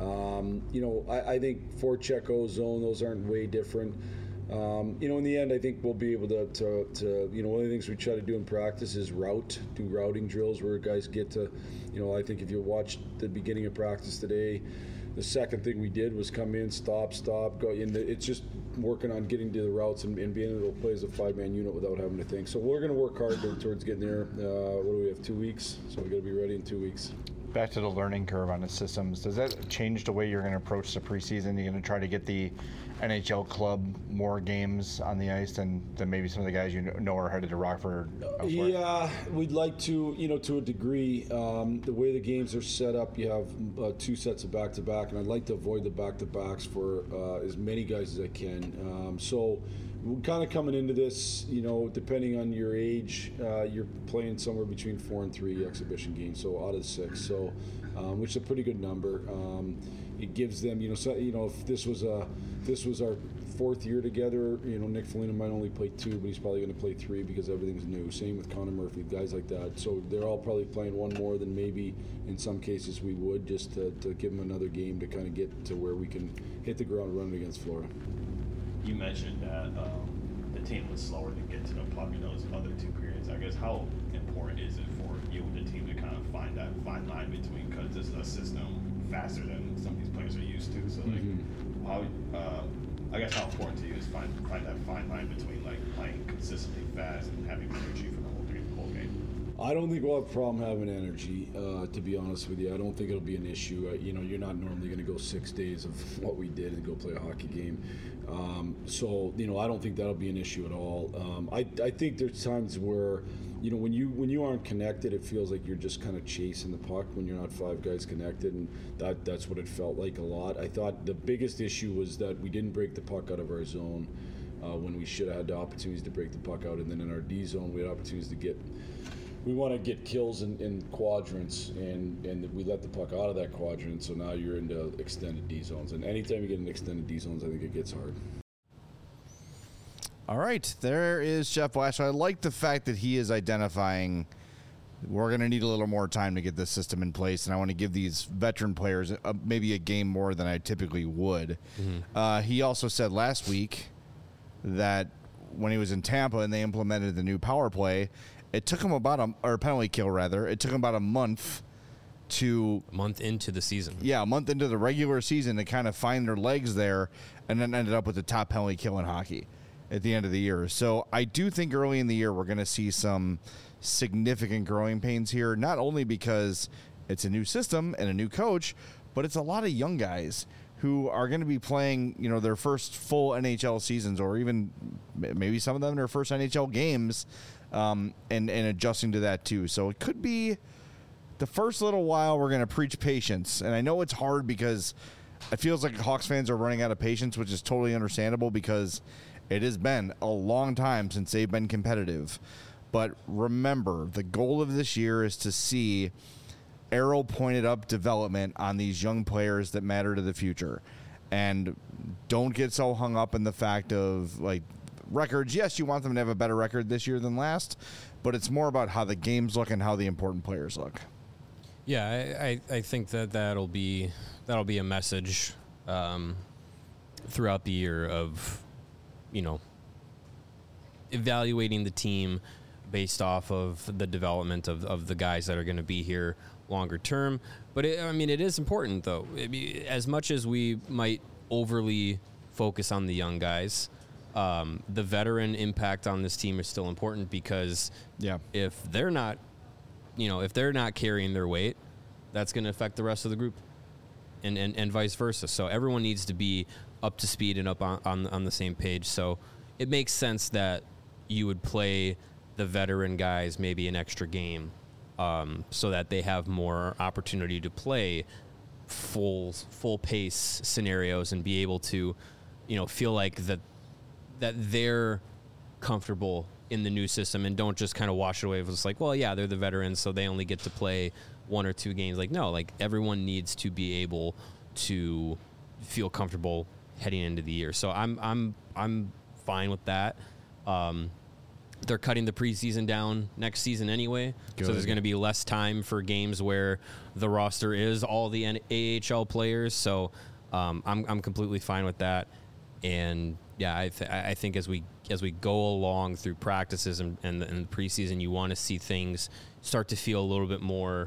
Um, you know, I, I think forecheck, O zone, those aren't way different. Um, you know, in the end, I think we'll be able to, to, to, you know, one of the things we try to do in practice is route, do routing drills where guys get to, you know, I think if you watched the beginning of practice today, the second thing we did was come in, stop, stop, go in. The, it's just working on getting to the routes and, and being able to play as a five-man unit without having to think. So we're going to work hard towards getting there. Uh, what do we have, two weeks? So we got to be ready in two weeks. Back to the learning curve on the systems, does that change the way you're going to approach the preseason? You're going to try to get the N H L club more games on the ice than, than maybe some of the guys you know are headed to Rockford elsewhere? Yeah, we'd like to, you know, to a degree. Um, the way the games are set up, you have uh, two sets of back-to-back, and I'd like to avoid the back-to-backs for uh, as many guys as I can. Um, so we're kind of coming into this, you know, depending on your age, uh, you're playing somewhere between four and three exhibition games, so out of six. So, um, which is a pretty good number. Um, it gives them, you know, so, you know, if this was a, if this was our fourth year together, you know, Nick Foligno might only play two, but he's probably going to play three because everything's new. Same with Connor Murphy, guys like that. So they're all probably playing one more than maybe in some cases we would, just to, to give them another game to kind of get to where we can hit the ground running against Florida. You mentioned that um, the team was slower to get to the puck in those other two periods. I guess how important is it for you and the team to kind of find that fine line between, because this is a system faster than some of these players are used to. So like, mm-hmm. how uh, I guess how important to you is find find that fine line between like playing consistently fast and having energy for the whole game. Whole game. I don't think we'll have a problem having energy, uh, to be honest with you. I don't think it'll be an issue. Uh, you know, you're not normally going to go six days of what we did and go play a hockey game. Um, so, you know, I don't think that'll be an issue at all. Um, I, I think there's times where, you know, when you when you aren't connected, it feels like you're just kind of chasing the puck when you're not five guys connected, and that that's what it felt like a lot. I thought the biggest issue was that we didn't break the puck out of our zone uh, when we should have had the opportunities to break the puck out, and then in our D zone, we had opportunities to get. We want to get kills in, in quadrants, and, and we let the puck out of that quadrant, so now you're into extended D zones. And anytime you get in extended D zones, I think it gets hard. All right, there is Jeff Blashill. I like the fact that he is identifying we're going to need a little more time to get this system in place, and I want to give these veteran players a, maybe a game more than I typically would. Mm-hmm. Uh, he also said last week that when he was in Tampa and they implemented the new power play, it took him about a, or penalty kill rather, it took him about a month to... A month into the season. Yeah, a month into the regular season to kind of find their legs there, and then ended up with the top penalty kill in hockey. at the end of the year. So I do think early in the year we're going to see some significant growing pains here, not only because it's a new system and a new coach, but it's a lot of young guys who are going to be playing, you know, their first full N H L seasons, or even maybe some of them their first N H L games, um, and, and adjusting to that too. So it could be the first little while we're going to preach patience. And I know it's hard because it feels like Hawks fans are running out of patience, which is totally understandable because it has been a long time since they've been competitive. But remember, the goal of this year is to see arrow pointed up development on these young players that matter to the future. And don't get so hung up in the fact of, like, records. Yes, you want them to have a better record this year than last, but it's more about how the games look and how the important players look. Yeah, I, I, I think that that'll be that'll be a message um, throughout the year of, you know, evaluating the team based off of the development of, of the guys that are going to be here longer term. But it, I mean, it is important though. It be, as much as we might overly focus on the young guys, um, the veteran impact on this team is still important because yeah, if they're not, you know, if they're not carrying their weight, that's going to affect the rest of the group, and, and, and vice versa. So everyone needs to be up to speed and up on, on, on the same page. So it makes sense that you would play the veteran guys maybe an extra game, um, so that they have more opportunity to play full full pace scenarios and be able to, you know, feel like that that they're comfortable in the new system and don't just kind of wash it away. It's like, well, yeah, they're the veterans, so they only get to play one or two games. Like, no, like everyone needs to be able to feel comfortable heading into the year. So I'm I'm I'm fine with that. Um, they're cutting the preseason down next season anyway, Good. So there's going to be less time for games where the roster is all the A H L players. So um, I'm I'm completely fine with that. And yeah, I th- I think as we as we go along through practices and and the, and the preseason, you want to see things start to feel a little bit more,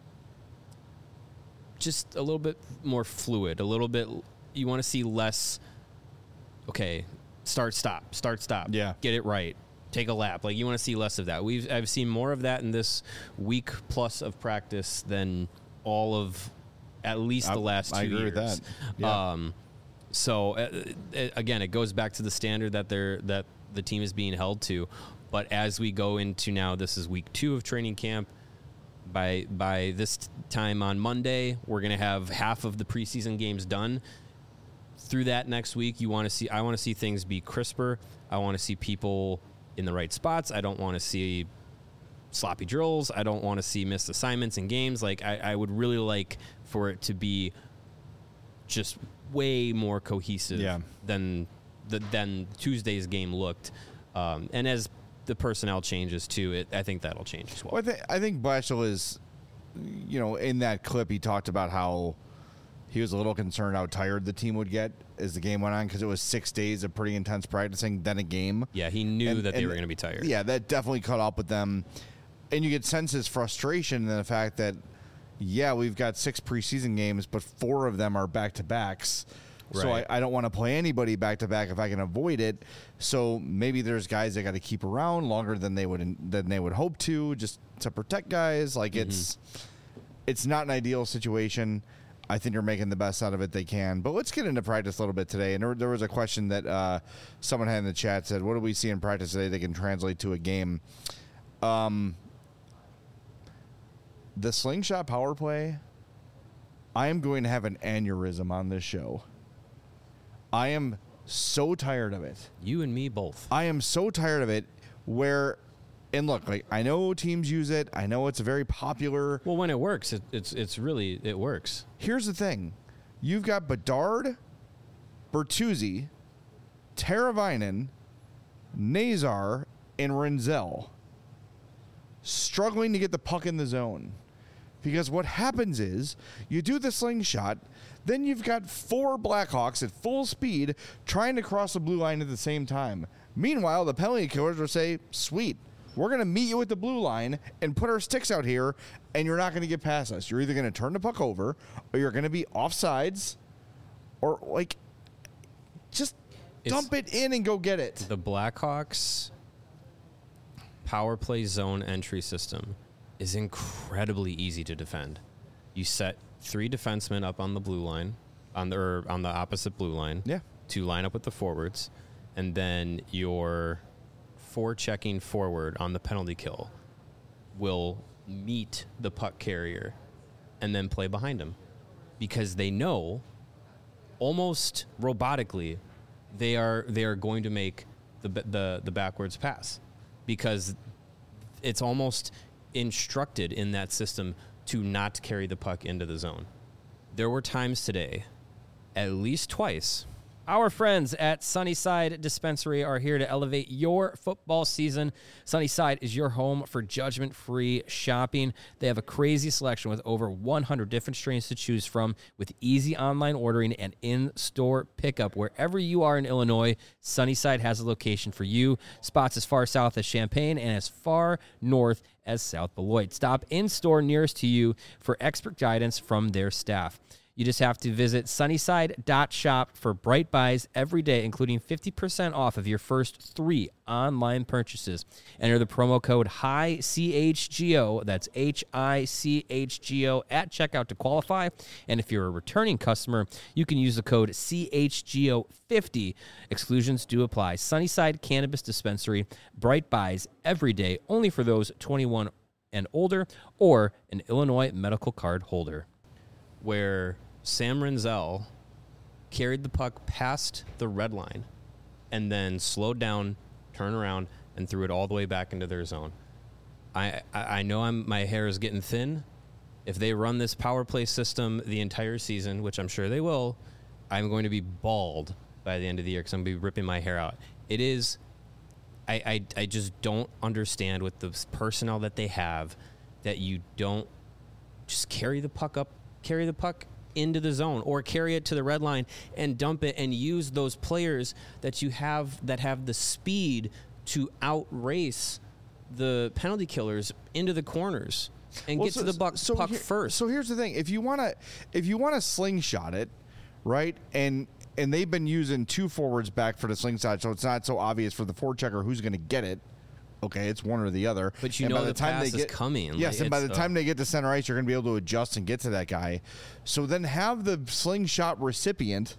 just a little bit more fluid, a little bit. You want to see less. Okay, start stop, start stop. Yeah, get it right. Take a lap. Like, you want to see less of that. We've I've seen more of that in this week plus of practice than all of at least the last I, two I agree years. with that. Yeah. Um, so uh, it, again, it goes back to the standard that they're that the team is being held to. But as we go into now, this is week two of training camp. By by this time on Monday, we're going to have half of the preseason games done. Through that next week, you want to see. I want to see things be crisper. I want to see people in the right spots. I don't want to see sloppy drills. I don't want to see missed assignments in games. Like, I, I would really like for it to be just way more cohesive yeah. than the, than Tuesday's game looked. Um, and as the personnel changes too, it, I think that'll change as well. well I, th- I think Blashill is, you know, in that clip he talked about how he was a little concerned how tired the team would get as the game went on because it was six days of pretty intense practicing, then a game. Yeah, he knew and, that they and were going to be tired. Yeah, that definitely caught up with them. And you get sense his frustration in the fact that, yeah, we've got six preseason games, but four of them are back-to-backs. Right. So I, I don't want to play anybody back-to-back if I can avoid it. So maybe there's guys that got to keep around longer than they would than they would hope to, just to protect guys. Like, mm-hmm. it's it's not an ideal situation. I think they're making the best out of it they can. But let's get into practice a little bit today. And there, there was a question that uh, someone had in the chat, said, what do we see in practice today that can translate to a game? Um, the slingshot power play, I am going to have an aneurysm on this show. I am so tired of it. You and me both. I am so tired of it where... And look, like, I know teams use it. I know it's a very popular. Well, when it works, it, it's it's really it works. Here's the thing: you've got Bedard, Bertuzzi, Teravainen, Nazar, and Renzel struggling to get the puck in the zone. Because what happens is you do the slingshot, then you've got four Blackhawks at full speed trying to cross the blue line at the same time. Meanwhile, the penalty killers will say, "Sweet. We're going to meet you at the blue line and put our sticks out here, and you're not going to get past us. You're either going to turn the puck over, or you're going to be offsides, or, like, just Dump it in and go get it. The Blackhawks power play zone entry system is incredibly easy to defend. You set three defensemen up on the blue line, on the or on the opposite blue line, yeah, to line up with the forwards, and then your forechecking forward on the penalty kill will meet the puck carrier and then play behind him, because they know almost robotically they are they are going to make the the the backwards pass, because it's almost instructed in that system to not carry the puck into the zone. There were times today, at least twice. Our friends at Sunnyside Dispensary are here to elevate your football season. Sunnyside is your home for judgment-free shopping. They have a crazy selection with over one hundred different strains to choose from, with easy online ordering and in-store pickup. Wherever you are in Illinois, Sunnyside has a location for you. Spots as far south as Champaign and as far north as South Beloit. Stop in-store nearest to you for expert guidance from their staff. You just have to visit sunnyside dot shop for bright buys every day, including fifty percent off of your first three online purchases. Enter the promo code H I C H G O, that's H I C H G O, at checkout to qualify. And if you're a returning customer, you can use the code C H G O fifty. Exclusions do apply. Sunnyside Cannabis Dispensary, bright buys every day, only for those twenty-one and older or an Illinois medical card holder. Where Sam Renzel carried the puck past the red line and then slowed down, turned around, and threw it all the way back into their zone. I I, I know I'm my hair is getting thin. If they run this power play system the entire season, which I'm sure they will, I'm going to be bald by the end of the year because I'm going to be ripping my hair out. It is, I, I, I just don't understand with the personnel that they have that you don't just carry the puck up, carry the puck into the zone, or carry it to the red line and dump it, and use those players that you have that have the speed to outrace the penalty killers into the corners and Well, get so- to the buck, so puck here- first. So here's the thing: if you want to, if you want to slingshot it, right, and and they've been using two forwards back for the slingshot, so it's not so obvious for the forechecker who's going to get it. Okay, it's one or the other. But you and know by the, the time pass they is get, coming. Yes, Like, and by it's, the uh, time they get to center ice, you're going to be able to adjust and get to that guy. So then have the slingshot recipient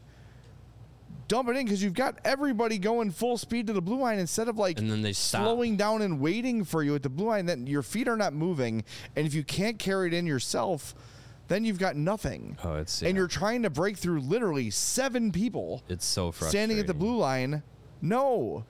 dump it in, because you've got everybody going full speed to the blue line instead of like and then they stop. slowing down and waiting for you at the blue line. Then your feet are not moving, and if you can't carry it in yourself, then you've got nothing. Oh, it's and yeah. you're trying to break through literally seven people. It's so frustrating. Standing at the blue line. No.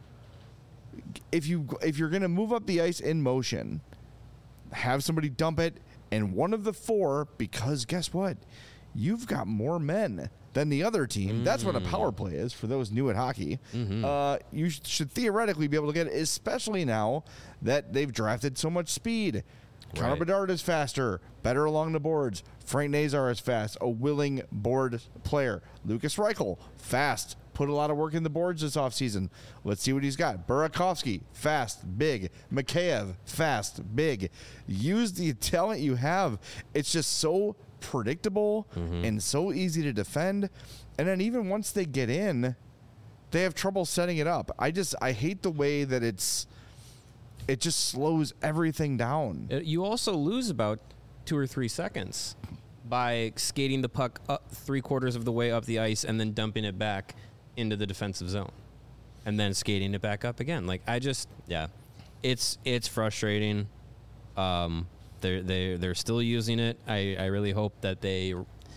If you if you're going to move up the ice in motion, have somebody dump it, and one of the four, because guess what? You've got more men than the other team. Mm. That's what a power play is for those new at hockey. Mm-hmm. Uh, you sh- should theoretically be able to get it, especially now that they've drafted so much speed. Connor Right. Bedard is faster, better along the boards. Frank Nazar is fast, a willing board player. Lucas Reichel, fast, put a lot of work in the boards this offseason. Let's see what he's got. Burakovsky, fast, big. Mikheyev, fast, big. Use the talent you have. It's just so predictable mm-hmm. and so easy to defend. And then even once they get in, they have trouble setting it up. I just, I hate the way that it's, it just slows everything down. You also lose about two or three seconds by skating the puck up three quarters of the way up the ice and then dumping it back into the defensive zone and then skating it back up again. Like, I just, yeah, it's, it's frustrating. Um, they're, they're, they're still using it. I, I really hope that they,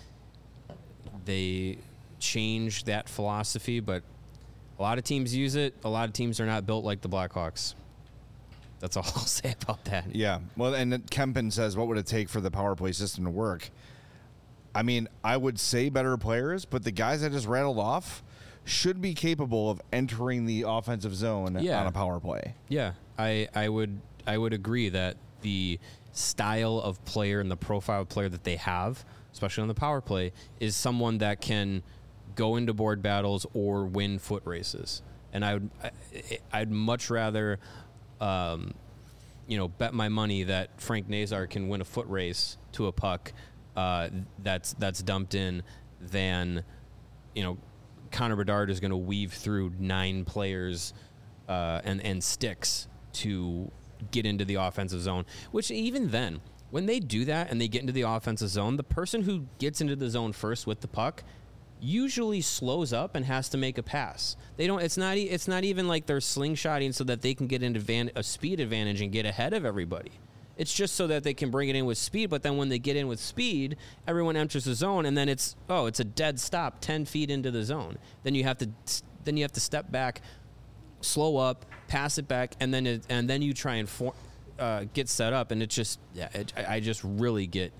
they change that philosophy, but a lot of teams use it. A lot of teams are not built like the Blackhawks. That's all I'll say about that. Yeah. Well, and then Kempen says, what would it take for the power play system to work? I mean, I would say better players, but the guys I just rattled off should be capable of entering the offensive zone Yeah. on a power play. Yeah, I, I would I would agree that the style of player and the profile of player that they have, especially on the power play, is someone that can go into board battles or win foot races. And I would I, I'd much rather um, you know, bet my money that Frank Nazar can win a foot race to a puck uh, that's that's dumped in than, you know, Connor Bedard is going to weave through nine players uh, and and sticks to get into the offensive zone. Which even then, when they do that and they get into the offensive zone, the person who gets into the zone first with the puck usually slows up and has to make a pass. They don't. It's not. It's not even like they're slingshotting so that they can get into van, a speed advantage and get ahead of everybody. It's just so that they can bring it in with speed. But then when they get in with speed, everyone enters the zone, and then it's oh, it's a dead stop, ten feet into the zone. Then you have to. Then you have to step back, slow up, pass it back, and then it, and then you try and for, uh, get set up. And it just yeah, it, I, I just really get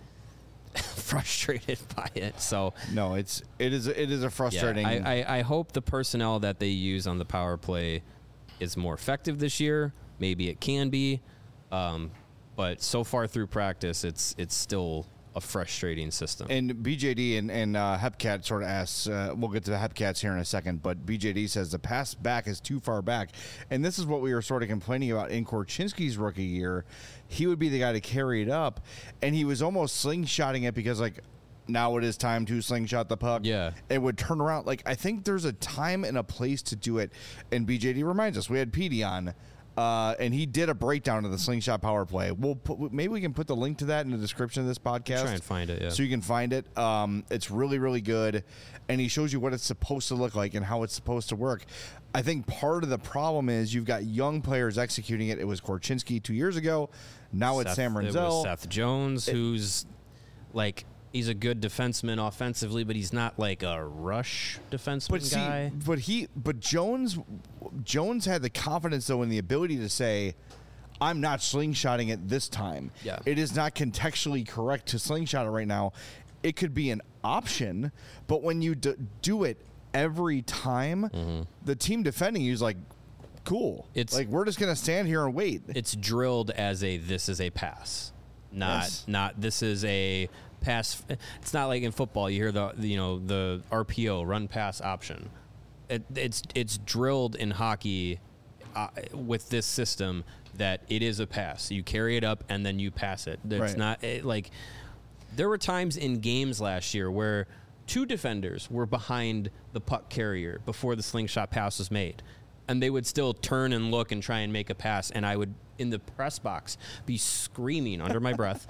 frustrated by it. So no, it's it is it is a frustrating. Yeah, I, I I hope the personnel that they use on the power play is more effective this year. Maybe it can be, um, but so far through practice, it's it's still a frustrating system. And B J D and, and uh, Hepcat sort of asks, uh, we'll get to the Hepcats here in a second, but B J D says the pass back is too far back. And this is what we were sort of complaining about in Korchinski's rookie year. He would be the guy to carry it up, and he was almost slingshotting it because, like, now it is time to slingshot the puck. Yeah. It would turn around. Like, I think there's a time and a place to do it. And B J D reminds us, we had Petey on, Uh, and he did a breakdown of the slingshot power play. We'll put, maybe we can put the link to that in the description of this podcast. I'll try and find it, yeah. So you can find it. Um, it's really, really good, and he shows you what it's supposed to look like and how it's supposed to work. I think part of the problem is you've got young players executing it. It was Korchinski two years ago. Now Seth, it's Sam Renzel. It was Seth Jones, it, who's like he's a good defenseman offensively, but he's not like a rush defenseman but see, guy. But he, but Jones, Jones had the confidence though and the ability to say, "I'm not slingshotting it this time. Yeah. It is not contextually correct to slingshot it right now. It could be an option, but when you d- do it every time, mm-hmm. the team defending you is like, cool. It's like we're just gonna stand here and wait. It's drilled as a this is a pass, not yes. not this is a." Pass. It's not like in football. You hear the you know the R P O run pass option. It, it's it's drilled in hockey uh, with this system that it is a pass. You carry it up and then you pass it. It's right. not it, like there were times in games last year where two defenders were behind the puck carrier before the slingshot pass was made, and they would still turn and look and try and make a pass, and I would in the press box be screaming under my breath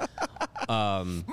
um,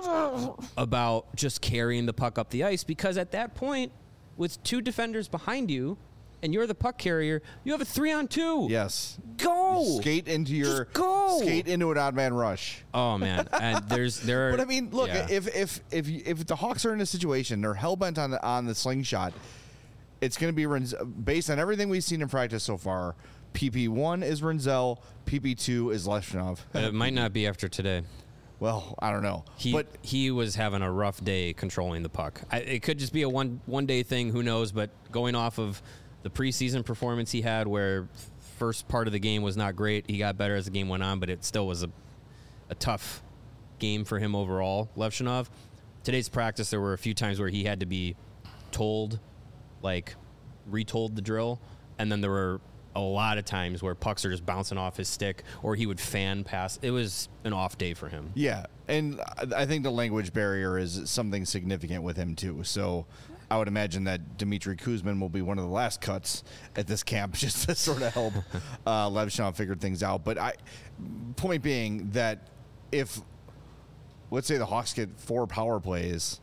about just carrying the puck up the ice, because at that point with two defenders behind you and you're the puck carrier, you have a three on two. Yes. Go. You skate into your just go. Skate into an odd man rush. Oh man. And there's there are, But I mean, look, yeah. if if if if the Hawks are in a situation, they're hell bent on the, on the slingshot, it's going to be Renz- based on everything we've seen in practice so far. P P one is Renzel, P P two is Leshunov. It might not be after today. Well, I don't know. He but he was having a rough day controlling the puck. I, it could just be a one one day thing. Who knows? But going off of the preseason performance he had, where first part of the game was not great, he got better as the game went on, but it still was a a tough game for him overall. Levshunov. Today's practice, there were a few times where he had to be told, like, retold the drill, and then there were a lot of times where pucks are just bouncing off his stick, or he would fan pass. It was an off day for him. Yeah, and I think the language barrier is something significant with him too. So I would imagine that Dmitry Kuzmin will be one of the last cuts at this camp just to sort of help uh, Levshunov figure things out. But I, point being that if, let's say the Hawks get four power plays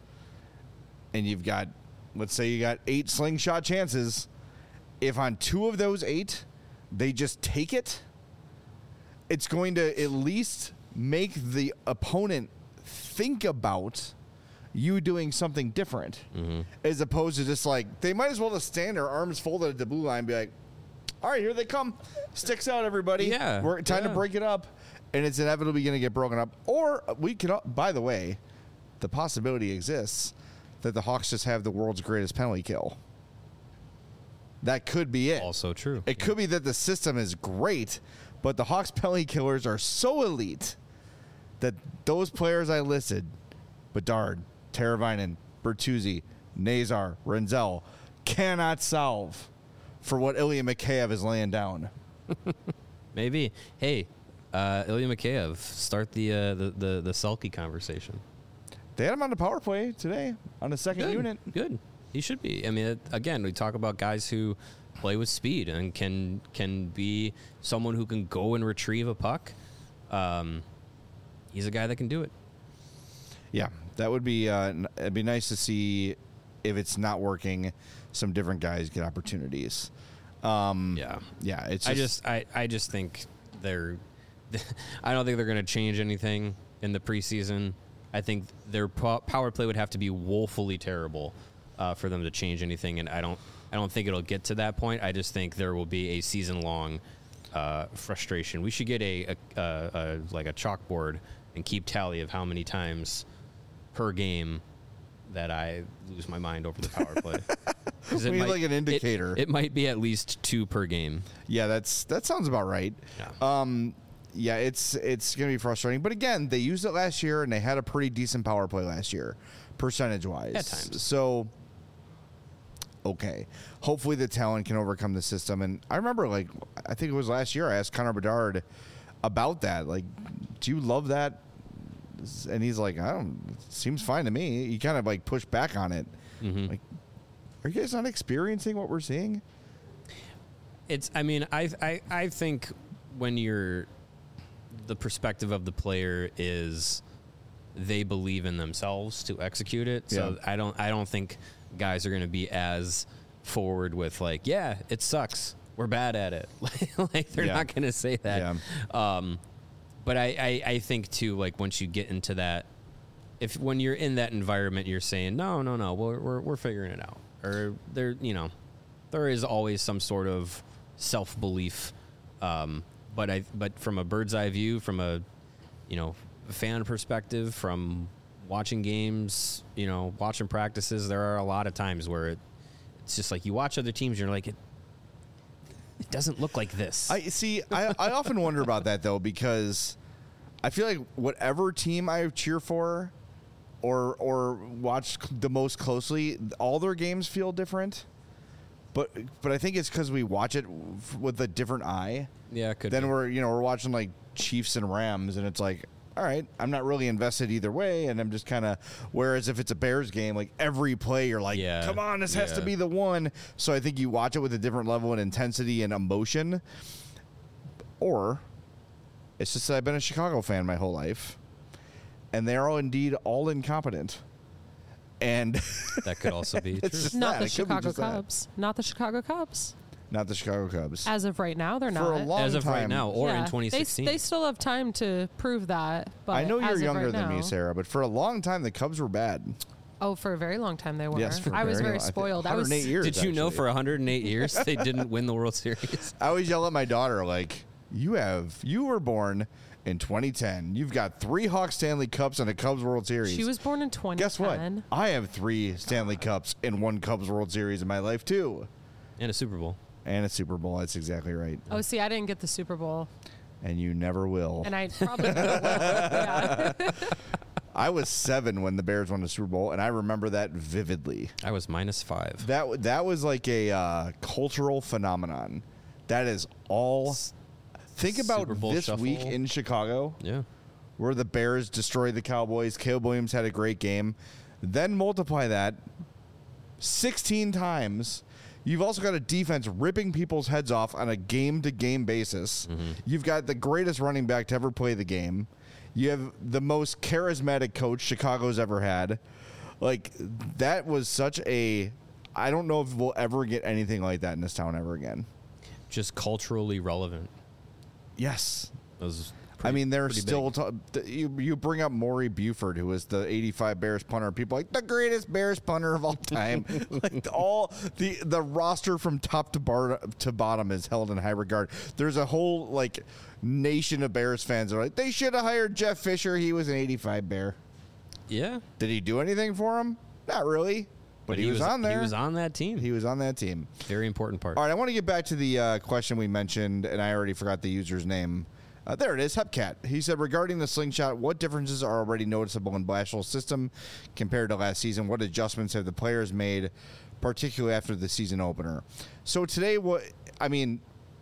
and you've got, let's say you got eight slingshot chances, if on two of those eight, they just take it, it's going to at least make the opponent think about you doing something different, mm-hmm. as opposed to just like, they might as well just stand their arms folded at the blue line and be like, all right, here they come. Sticks out, everybody. Yeah. We're time yeah. to break it up. And it's inevitably going to get broken up. Or we can, by the way, the possibility exists that the Hawks just have the world's greatest penalty kill. That could be it. Also true. It could be that the system is great, but the Hawks penalty killers are so elite that those players I listed, Bedard, Teravainen, Bertuzzi, Nazar, Renzel, cannot solve for what Ilya Mikheyev is laying down. Maybe. Hey, uh, Ilya Mikheyev, start the, uh, the the the sulky conversation. They had him on the power play today on the second Good. unit. Good. He should be. I mean, it, again, we talk about guys who play with speed and can can be someone who can go and retrieve a puck. Um, he's a guy that can do it. Yeah, that would be. Uh, n- it'd be nice to see if it's not working, some different guys get opportunities. Um, yeah, yeah. It's. I Just, just, I, I just think they're. I don't think they're going to change anything in the preseason. I think their po- power play would have to be woefully terrible uh, for them to change anything, and I don't. I don't think it'll get to that point. I just think there will be a season-long uh, frustration. We should get a, a, a, a like a chalkboard and keep tally of how many times per game that I lose my mind over the power play. we need like an indicator. It, it might be at least two per game. Yeah, that's that sounds about right. Yeah. Um, yeah, it's it's gonna be frustrating. But again, they used it last year and they had a pretty decent power play last year, percentage wise. At times. So okay. Hopefully the talent can overcome the system. And I remember like I think it was last year I asked Connor Bedard about that. Like, do you love that? And he's like, I don't. It seems fine to me. He kind of like pushed back on it. Mm-hmm. Like, are you guys not experiencing what we're seeing? It's. I mean, I. I. I think when you're, the perspective of the player is, they believe in themselves to execute it. So Yeah. I don't. I don't think guys are going to be as forward with like, yeah, it sucks. We're bad at it. Like they're Yeah. not going to say that. Yeah. Um, But I, I, I think, too, like, once you get into that, if when you're in that environment, you're saying, no, no, no, we're, we're, we're figuring it out. Or, there, you know, there is always some sort of self-belief. Um, but I, but from a bird's eye view, from a, you know, fan perspective, from watching games, you know, watching practices, there are a lot of times where it, it's just like you watch other teams, you're like, it, It doesn't look like this. I see. I, I often wonder about that though, because I feel like whatever team I cheer for, or or watch the most closely, all their games feel different. But but I think it's because we watch it with a different eye. Yeah, it could then be. we're you know we're watching like Chiefs and Rams, and it's like, all right, I'm not really invested either way, and I'm just kind of. Whereas if it's a Bears game, like every play, you're like, Yeah, come on, this has to yeah. be the one. So I think you watch it with a different level of intensity and emotion. Or it's just that I've been a Chicago fan my whole life, and they are indeed all incompetent. And that could also be it's true. just Not that. the It could be Chicago just that. Cubs. Not the Chicago Cubs. Not the Chicago Cubs. As of right now, they're For not. a long As of right time. now, or in Yeah. twenty sixteen. They, they still have time to prove that. But I know as you're of younger right than now, me, Sarah, but for a long time the Cubs were bad. Oh, for a very long time they were. Yes, for I was very very long- I think spoiled. I was one hundred eight years. Did you know actually. for one hundred eight years they didn't win the World Series? I always yell at my daughter like, "You have you were born in twenty ten. You've got three Hawks Stanley Cups and a Cubs World Series. She was born in twenty ten. Guess what? I have three Stanley Cups and one Cubs World Series in my life too, And a Super Bowl. and a Super Bowl. That's exactly right. Oh, see, I didn't get the Super Bowl, And you never will. and I probably never will. Yeah. I was seven when the Bears won the Super Bowl, and I remember that vividly. I was minus five. That w- that was like a uh, cultural phenomenon. That is all. Think about Super Bowl this shuffle. week in Chicago, Yeah. where the Bears destroyed the Cowboys. Caleb Williams had a great game. Then multiply that sixteen times. You've also got a defense ripping people's heads off on a game-to-game basis. Mm-hmm. You've got the greatest running back to ever play the game. You have the most charismatic coach Chicago's ever had. Like, that was such a... I don't know if we'll ever get anything like that in this town ever again. Just culturally relevant. Yes. That was I pretty- mean, they're pretty still big. t- th- you. You bring up Maury Buford, who was the eighty-five Bears punter. People are like the greatest Bears punter of all time. Like all the the roster from top to bar to bottom is held in high regard. There's a whole like nation of Bears fans that are like they should have hired Jeff Fisher. He was an eighty-five Bear. Yeah. Did he do anything for him? Not really. But, he, was, on there. He was on that team. He was on that team. Very important part. All right, I want to get back to the uh, question we mentioned, and I already forgot the user's name. Uh, there it is, Hepcat. He said, regarding the slingshot, what differences are already noticeable in Blashill's system compared to last season? What adjustments have the players made, particularly after the season opener? So today, what I mean,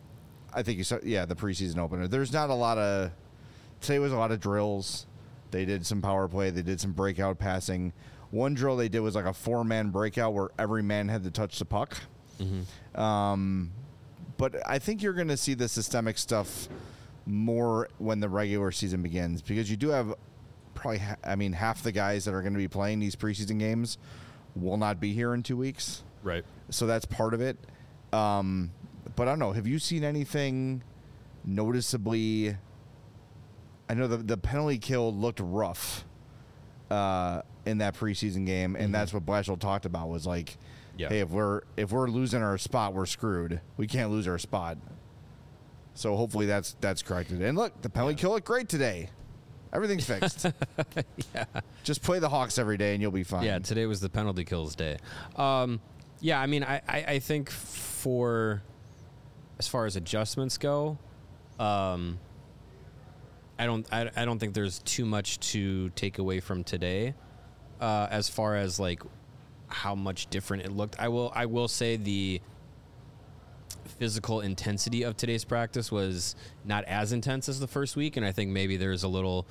I think you saw, yeah, the preseason opener. There's not a lot of, today was a lot of drills. They did some power play. They did some breakout passing. one drill they did was like a four-man breakout where every man had to touch the puck. Mm-hmm. Um, but I think you're going to see the systemic stuff more when the regular season begins, because you do have probably, ha- I mean, half the guys that are going to be playing these preseason games will not be here in two weeks. Right. So that's part of it. Um, but I don't know. Have you seen anything noticeably? I know the the penalty kill looked rough uh, in that preseason game, and mm-hmm. that's what Blashill talked about. Was like, yeah. hey, if we're if we're losing our spot, we're screwed. We can't lose our spot. So hopefully that's that's corrected. And look, the penalty yeah. kill looked great today. Everything's fixed. yeah. Just play the Hawks every day, and you'll be fine. Yeah, today was the penalty kills day. Um, yeah, I mean, I, I, I think for as far as adjustments go, um, I don't I, I don't think there's too much to take away from today. Uh, as far as like how much different it looked, I will I will say the physical intensity of today's practice was not as intense as the first week, and I think maybe there's a little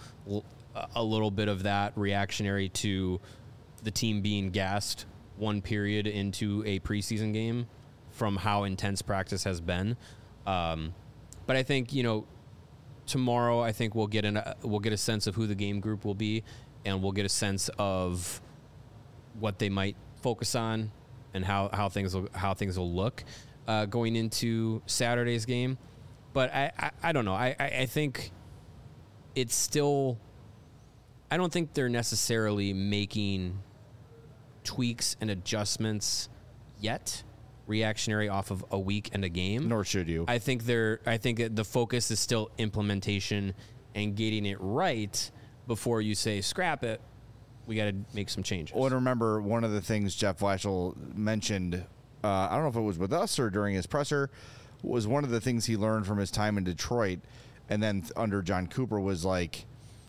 a little bit of that reactionary to the team being gassed one period into a preseason game from how intense practice has been. Um, but I think, you know, tomorrow I think we'll get an, uh, we'll get a sense of who the game group will be, and we'll get a sense of what they might focus on and how, how things will, how things will look uh, going into Saturday's game. But I, I, I don't know. I, I, I think it's still, I don't think they're necessarily making tweaks and adjustments yet, reactionary off of a week and a game. Nor should you. I think they're. I think the focus is still implementation and getting it right before you say scrap it. We got to make some changes. Well, and remember, one of the things Jeff Blashill mentioned, uh, I don't know if it was with us or during his presser, was one of the things he learned from his time in Detroit, and then under John Cooper was like,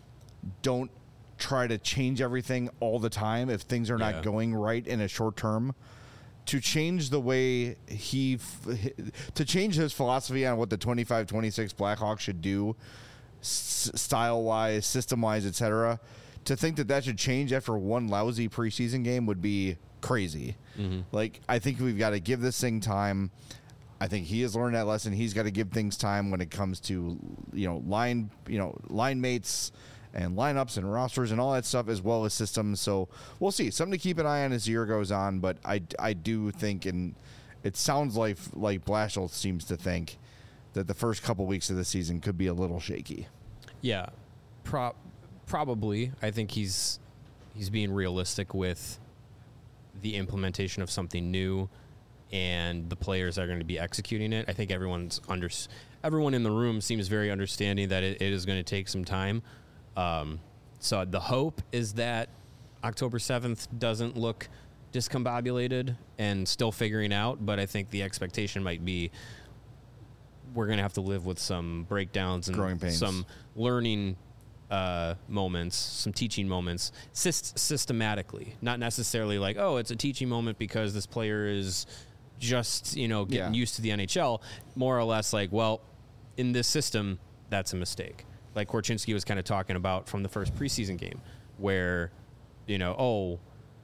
don't try to change everything all the time if things are not yeah. going right in a short term. To change the way he, to change his philosophy on what the twenty-five twenty-six Blackhawks should do, s- style-wise, system-wise, et cetera, to think that that should change after one lousy preseason game would be crazy. Mm-hmm. Like, I think we've got to give this thing time. I think he has learned that lesson. He's got to give things time when it comes to, you know, line, you know, line mates and lineups and rosters and all that stuff, as well as systems. So we'll see. Something to keep an eye on as the year goes on. But I, I do think, and it sounds like like Blashill seems to think, that the first couple weeks of the season could be a little shaky. Yeah, pro- probably. I think he's he's being realistic with the implementation of something new, and the players are going to be executing it. I think everyone's under everyone in the room seems very understanding that it, it is going to take some time. Um, so the hope is that October seventh doesn't look discombobulated and still figuring out, but I think the expectation might be we're going to have to live with some breakdowns and growing pains, some learning uh, moments, some teaching moments, syst- systematically, not necessarily like, oh, it's a teaching moment because this player is just, you know, getting yeah. used to the N H L. More or less like, well, in this system, that's a mistake. Like Korchinski was kind of talking about from the first preseason game, where, you know, oh,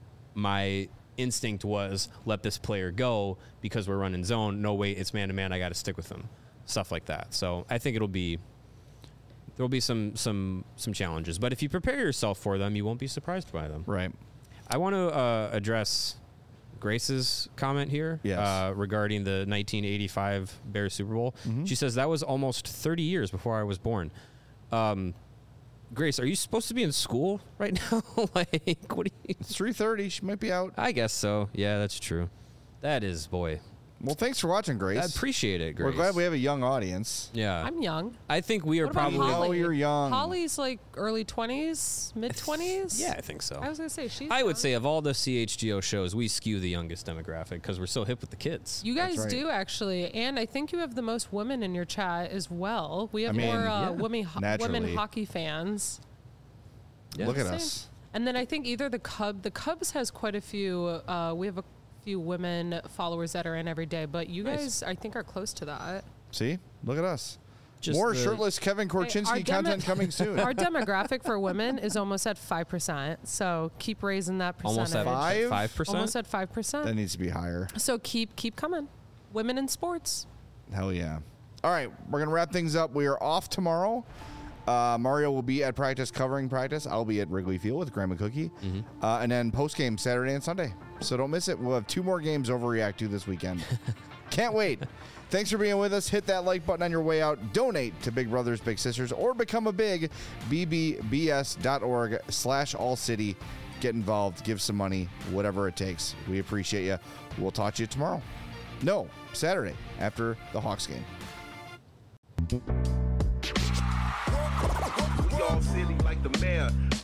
my instinct was let this player go because we're running zone. No, wait, it's man to man. I got to stick with them. Stuff like that. So I think it'll be there'll be some some some challenges, but if you prepare yourself for them, you won't be surprised by them. Right. I want to uh, address Grace's comment here yes. uh, regarding the nineteen eighty-five Bears Super Bowl. Mm-hmm. She says that was almost thirty years before I was born. Um, Grace, are you supposed to be in school right now? Like, what? Do you? It's three thirty. She might be out. I guess so. Yeah, that's true. That is, boy. Well, thanks for watching, Grace. I appreciate it, Grace. We're glad we have a young audience. Yeah. I'm young. I think we are what about probably. Holly? Oh, you're young. Holly's like early twenties, mid twenties. Yeah, I think so. I was gonna say she's. I young. would say of all the C H G O shows, we skew the youngest demographic because we're so hip with the kids. You guys right. do actually, and I think you have the most women in your chat as well. We have I mean, more uh, yeah, women ho- women hockey fans. Yeah. Look at Same. us. And then I think either the Cub, the Cubs has quite a few. Uh, we have a few women followers that are in every day, but you nice. guys, I think, are close to that. See, look at us. Just More the- shirtless Kevin Korchinski Hey, our demo- content coming soon. Our demographic for women is almost at five percent. So keep raising that percentage. Almost at Five? five percent. Almost at five That percent. needs to be higher. So keep keep coming. Women in sports. Hell yeah. All right, we're going to wrap things up. We are off tomorrow. Uh, Mario will be at practice covering practice. I'll be at Wrigley Field with Graham and Cookie. Mm-hmm. Uh, and then post-game Saturday and Sunday. So don't miss it. We'll have two more games overreact to this weekend. Can't wait. Thanks for being with us. Hit that like button on your way out. Donate to Big Brothers Big Sisters or become a big b b b s dot org slash all city. Get involved. Give some money. Whatever it takes. We appreciate you. We'll talk to you tomorrow. No, Saturday after the Hawks game. We all silly like the mayor.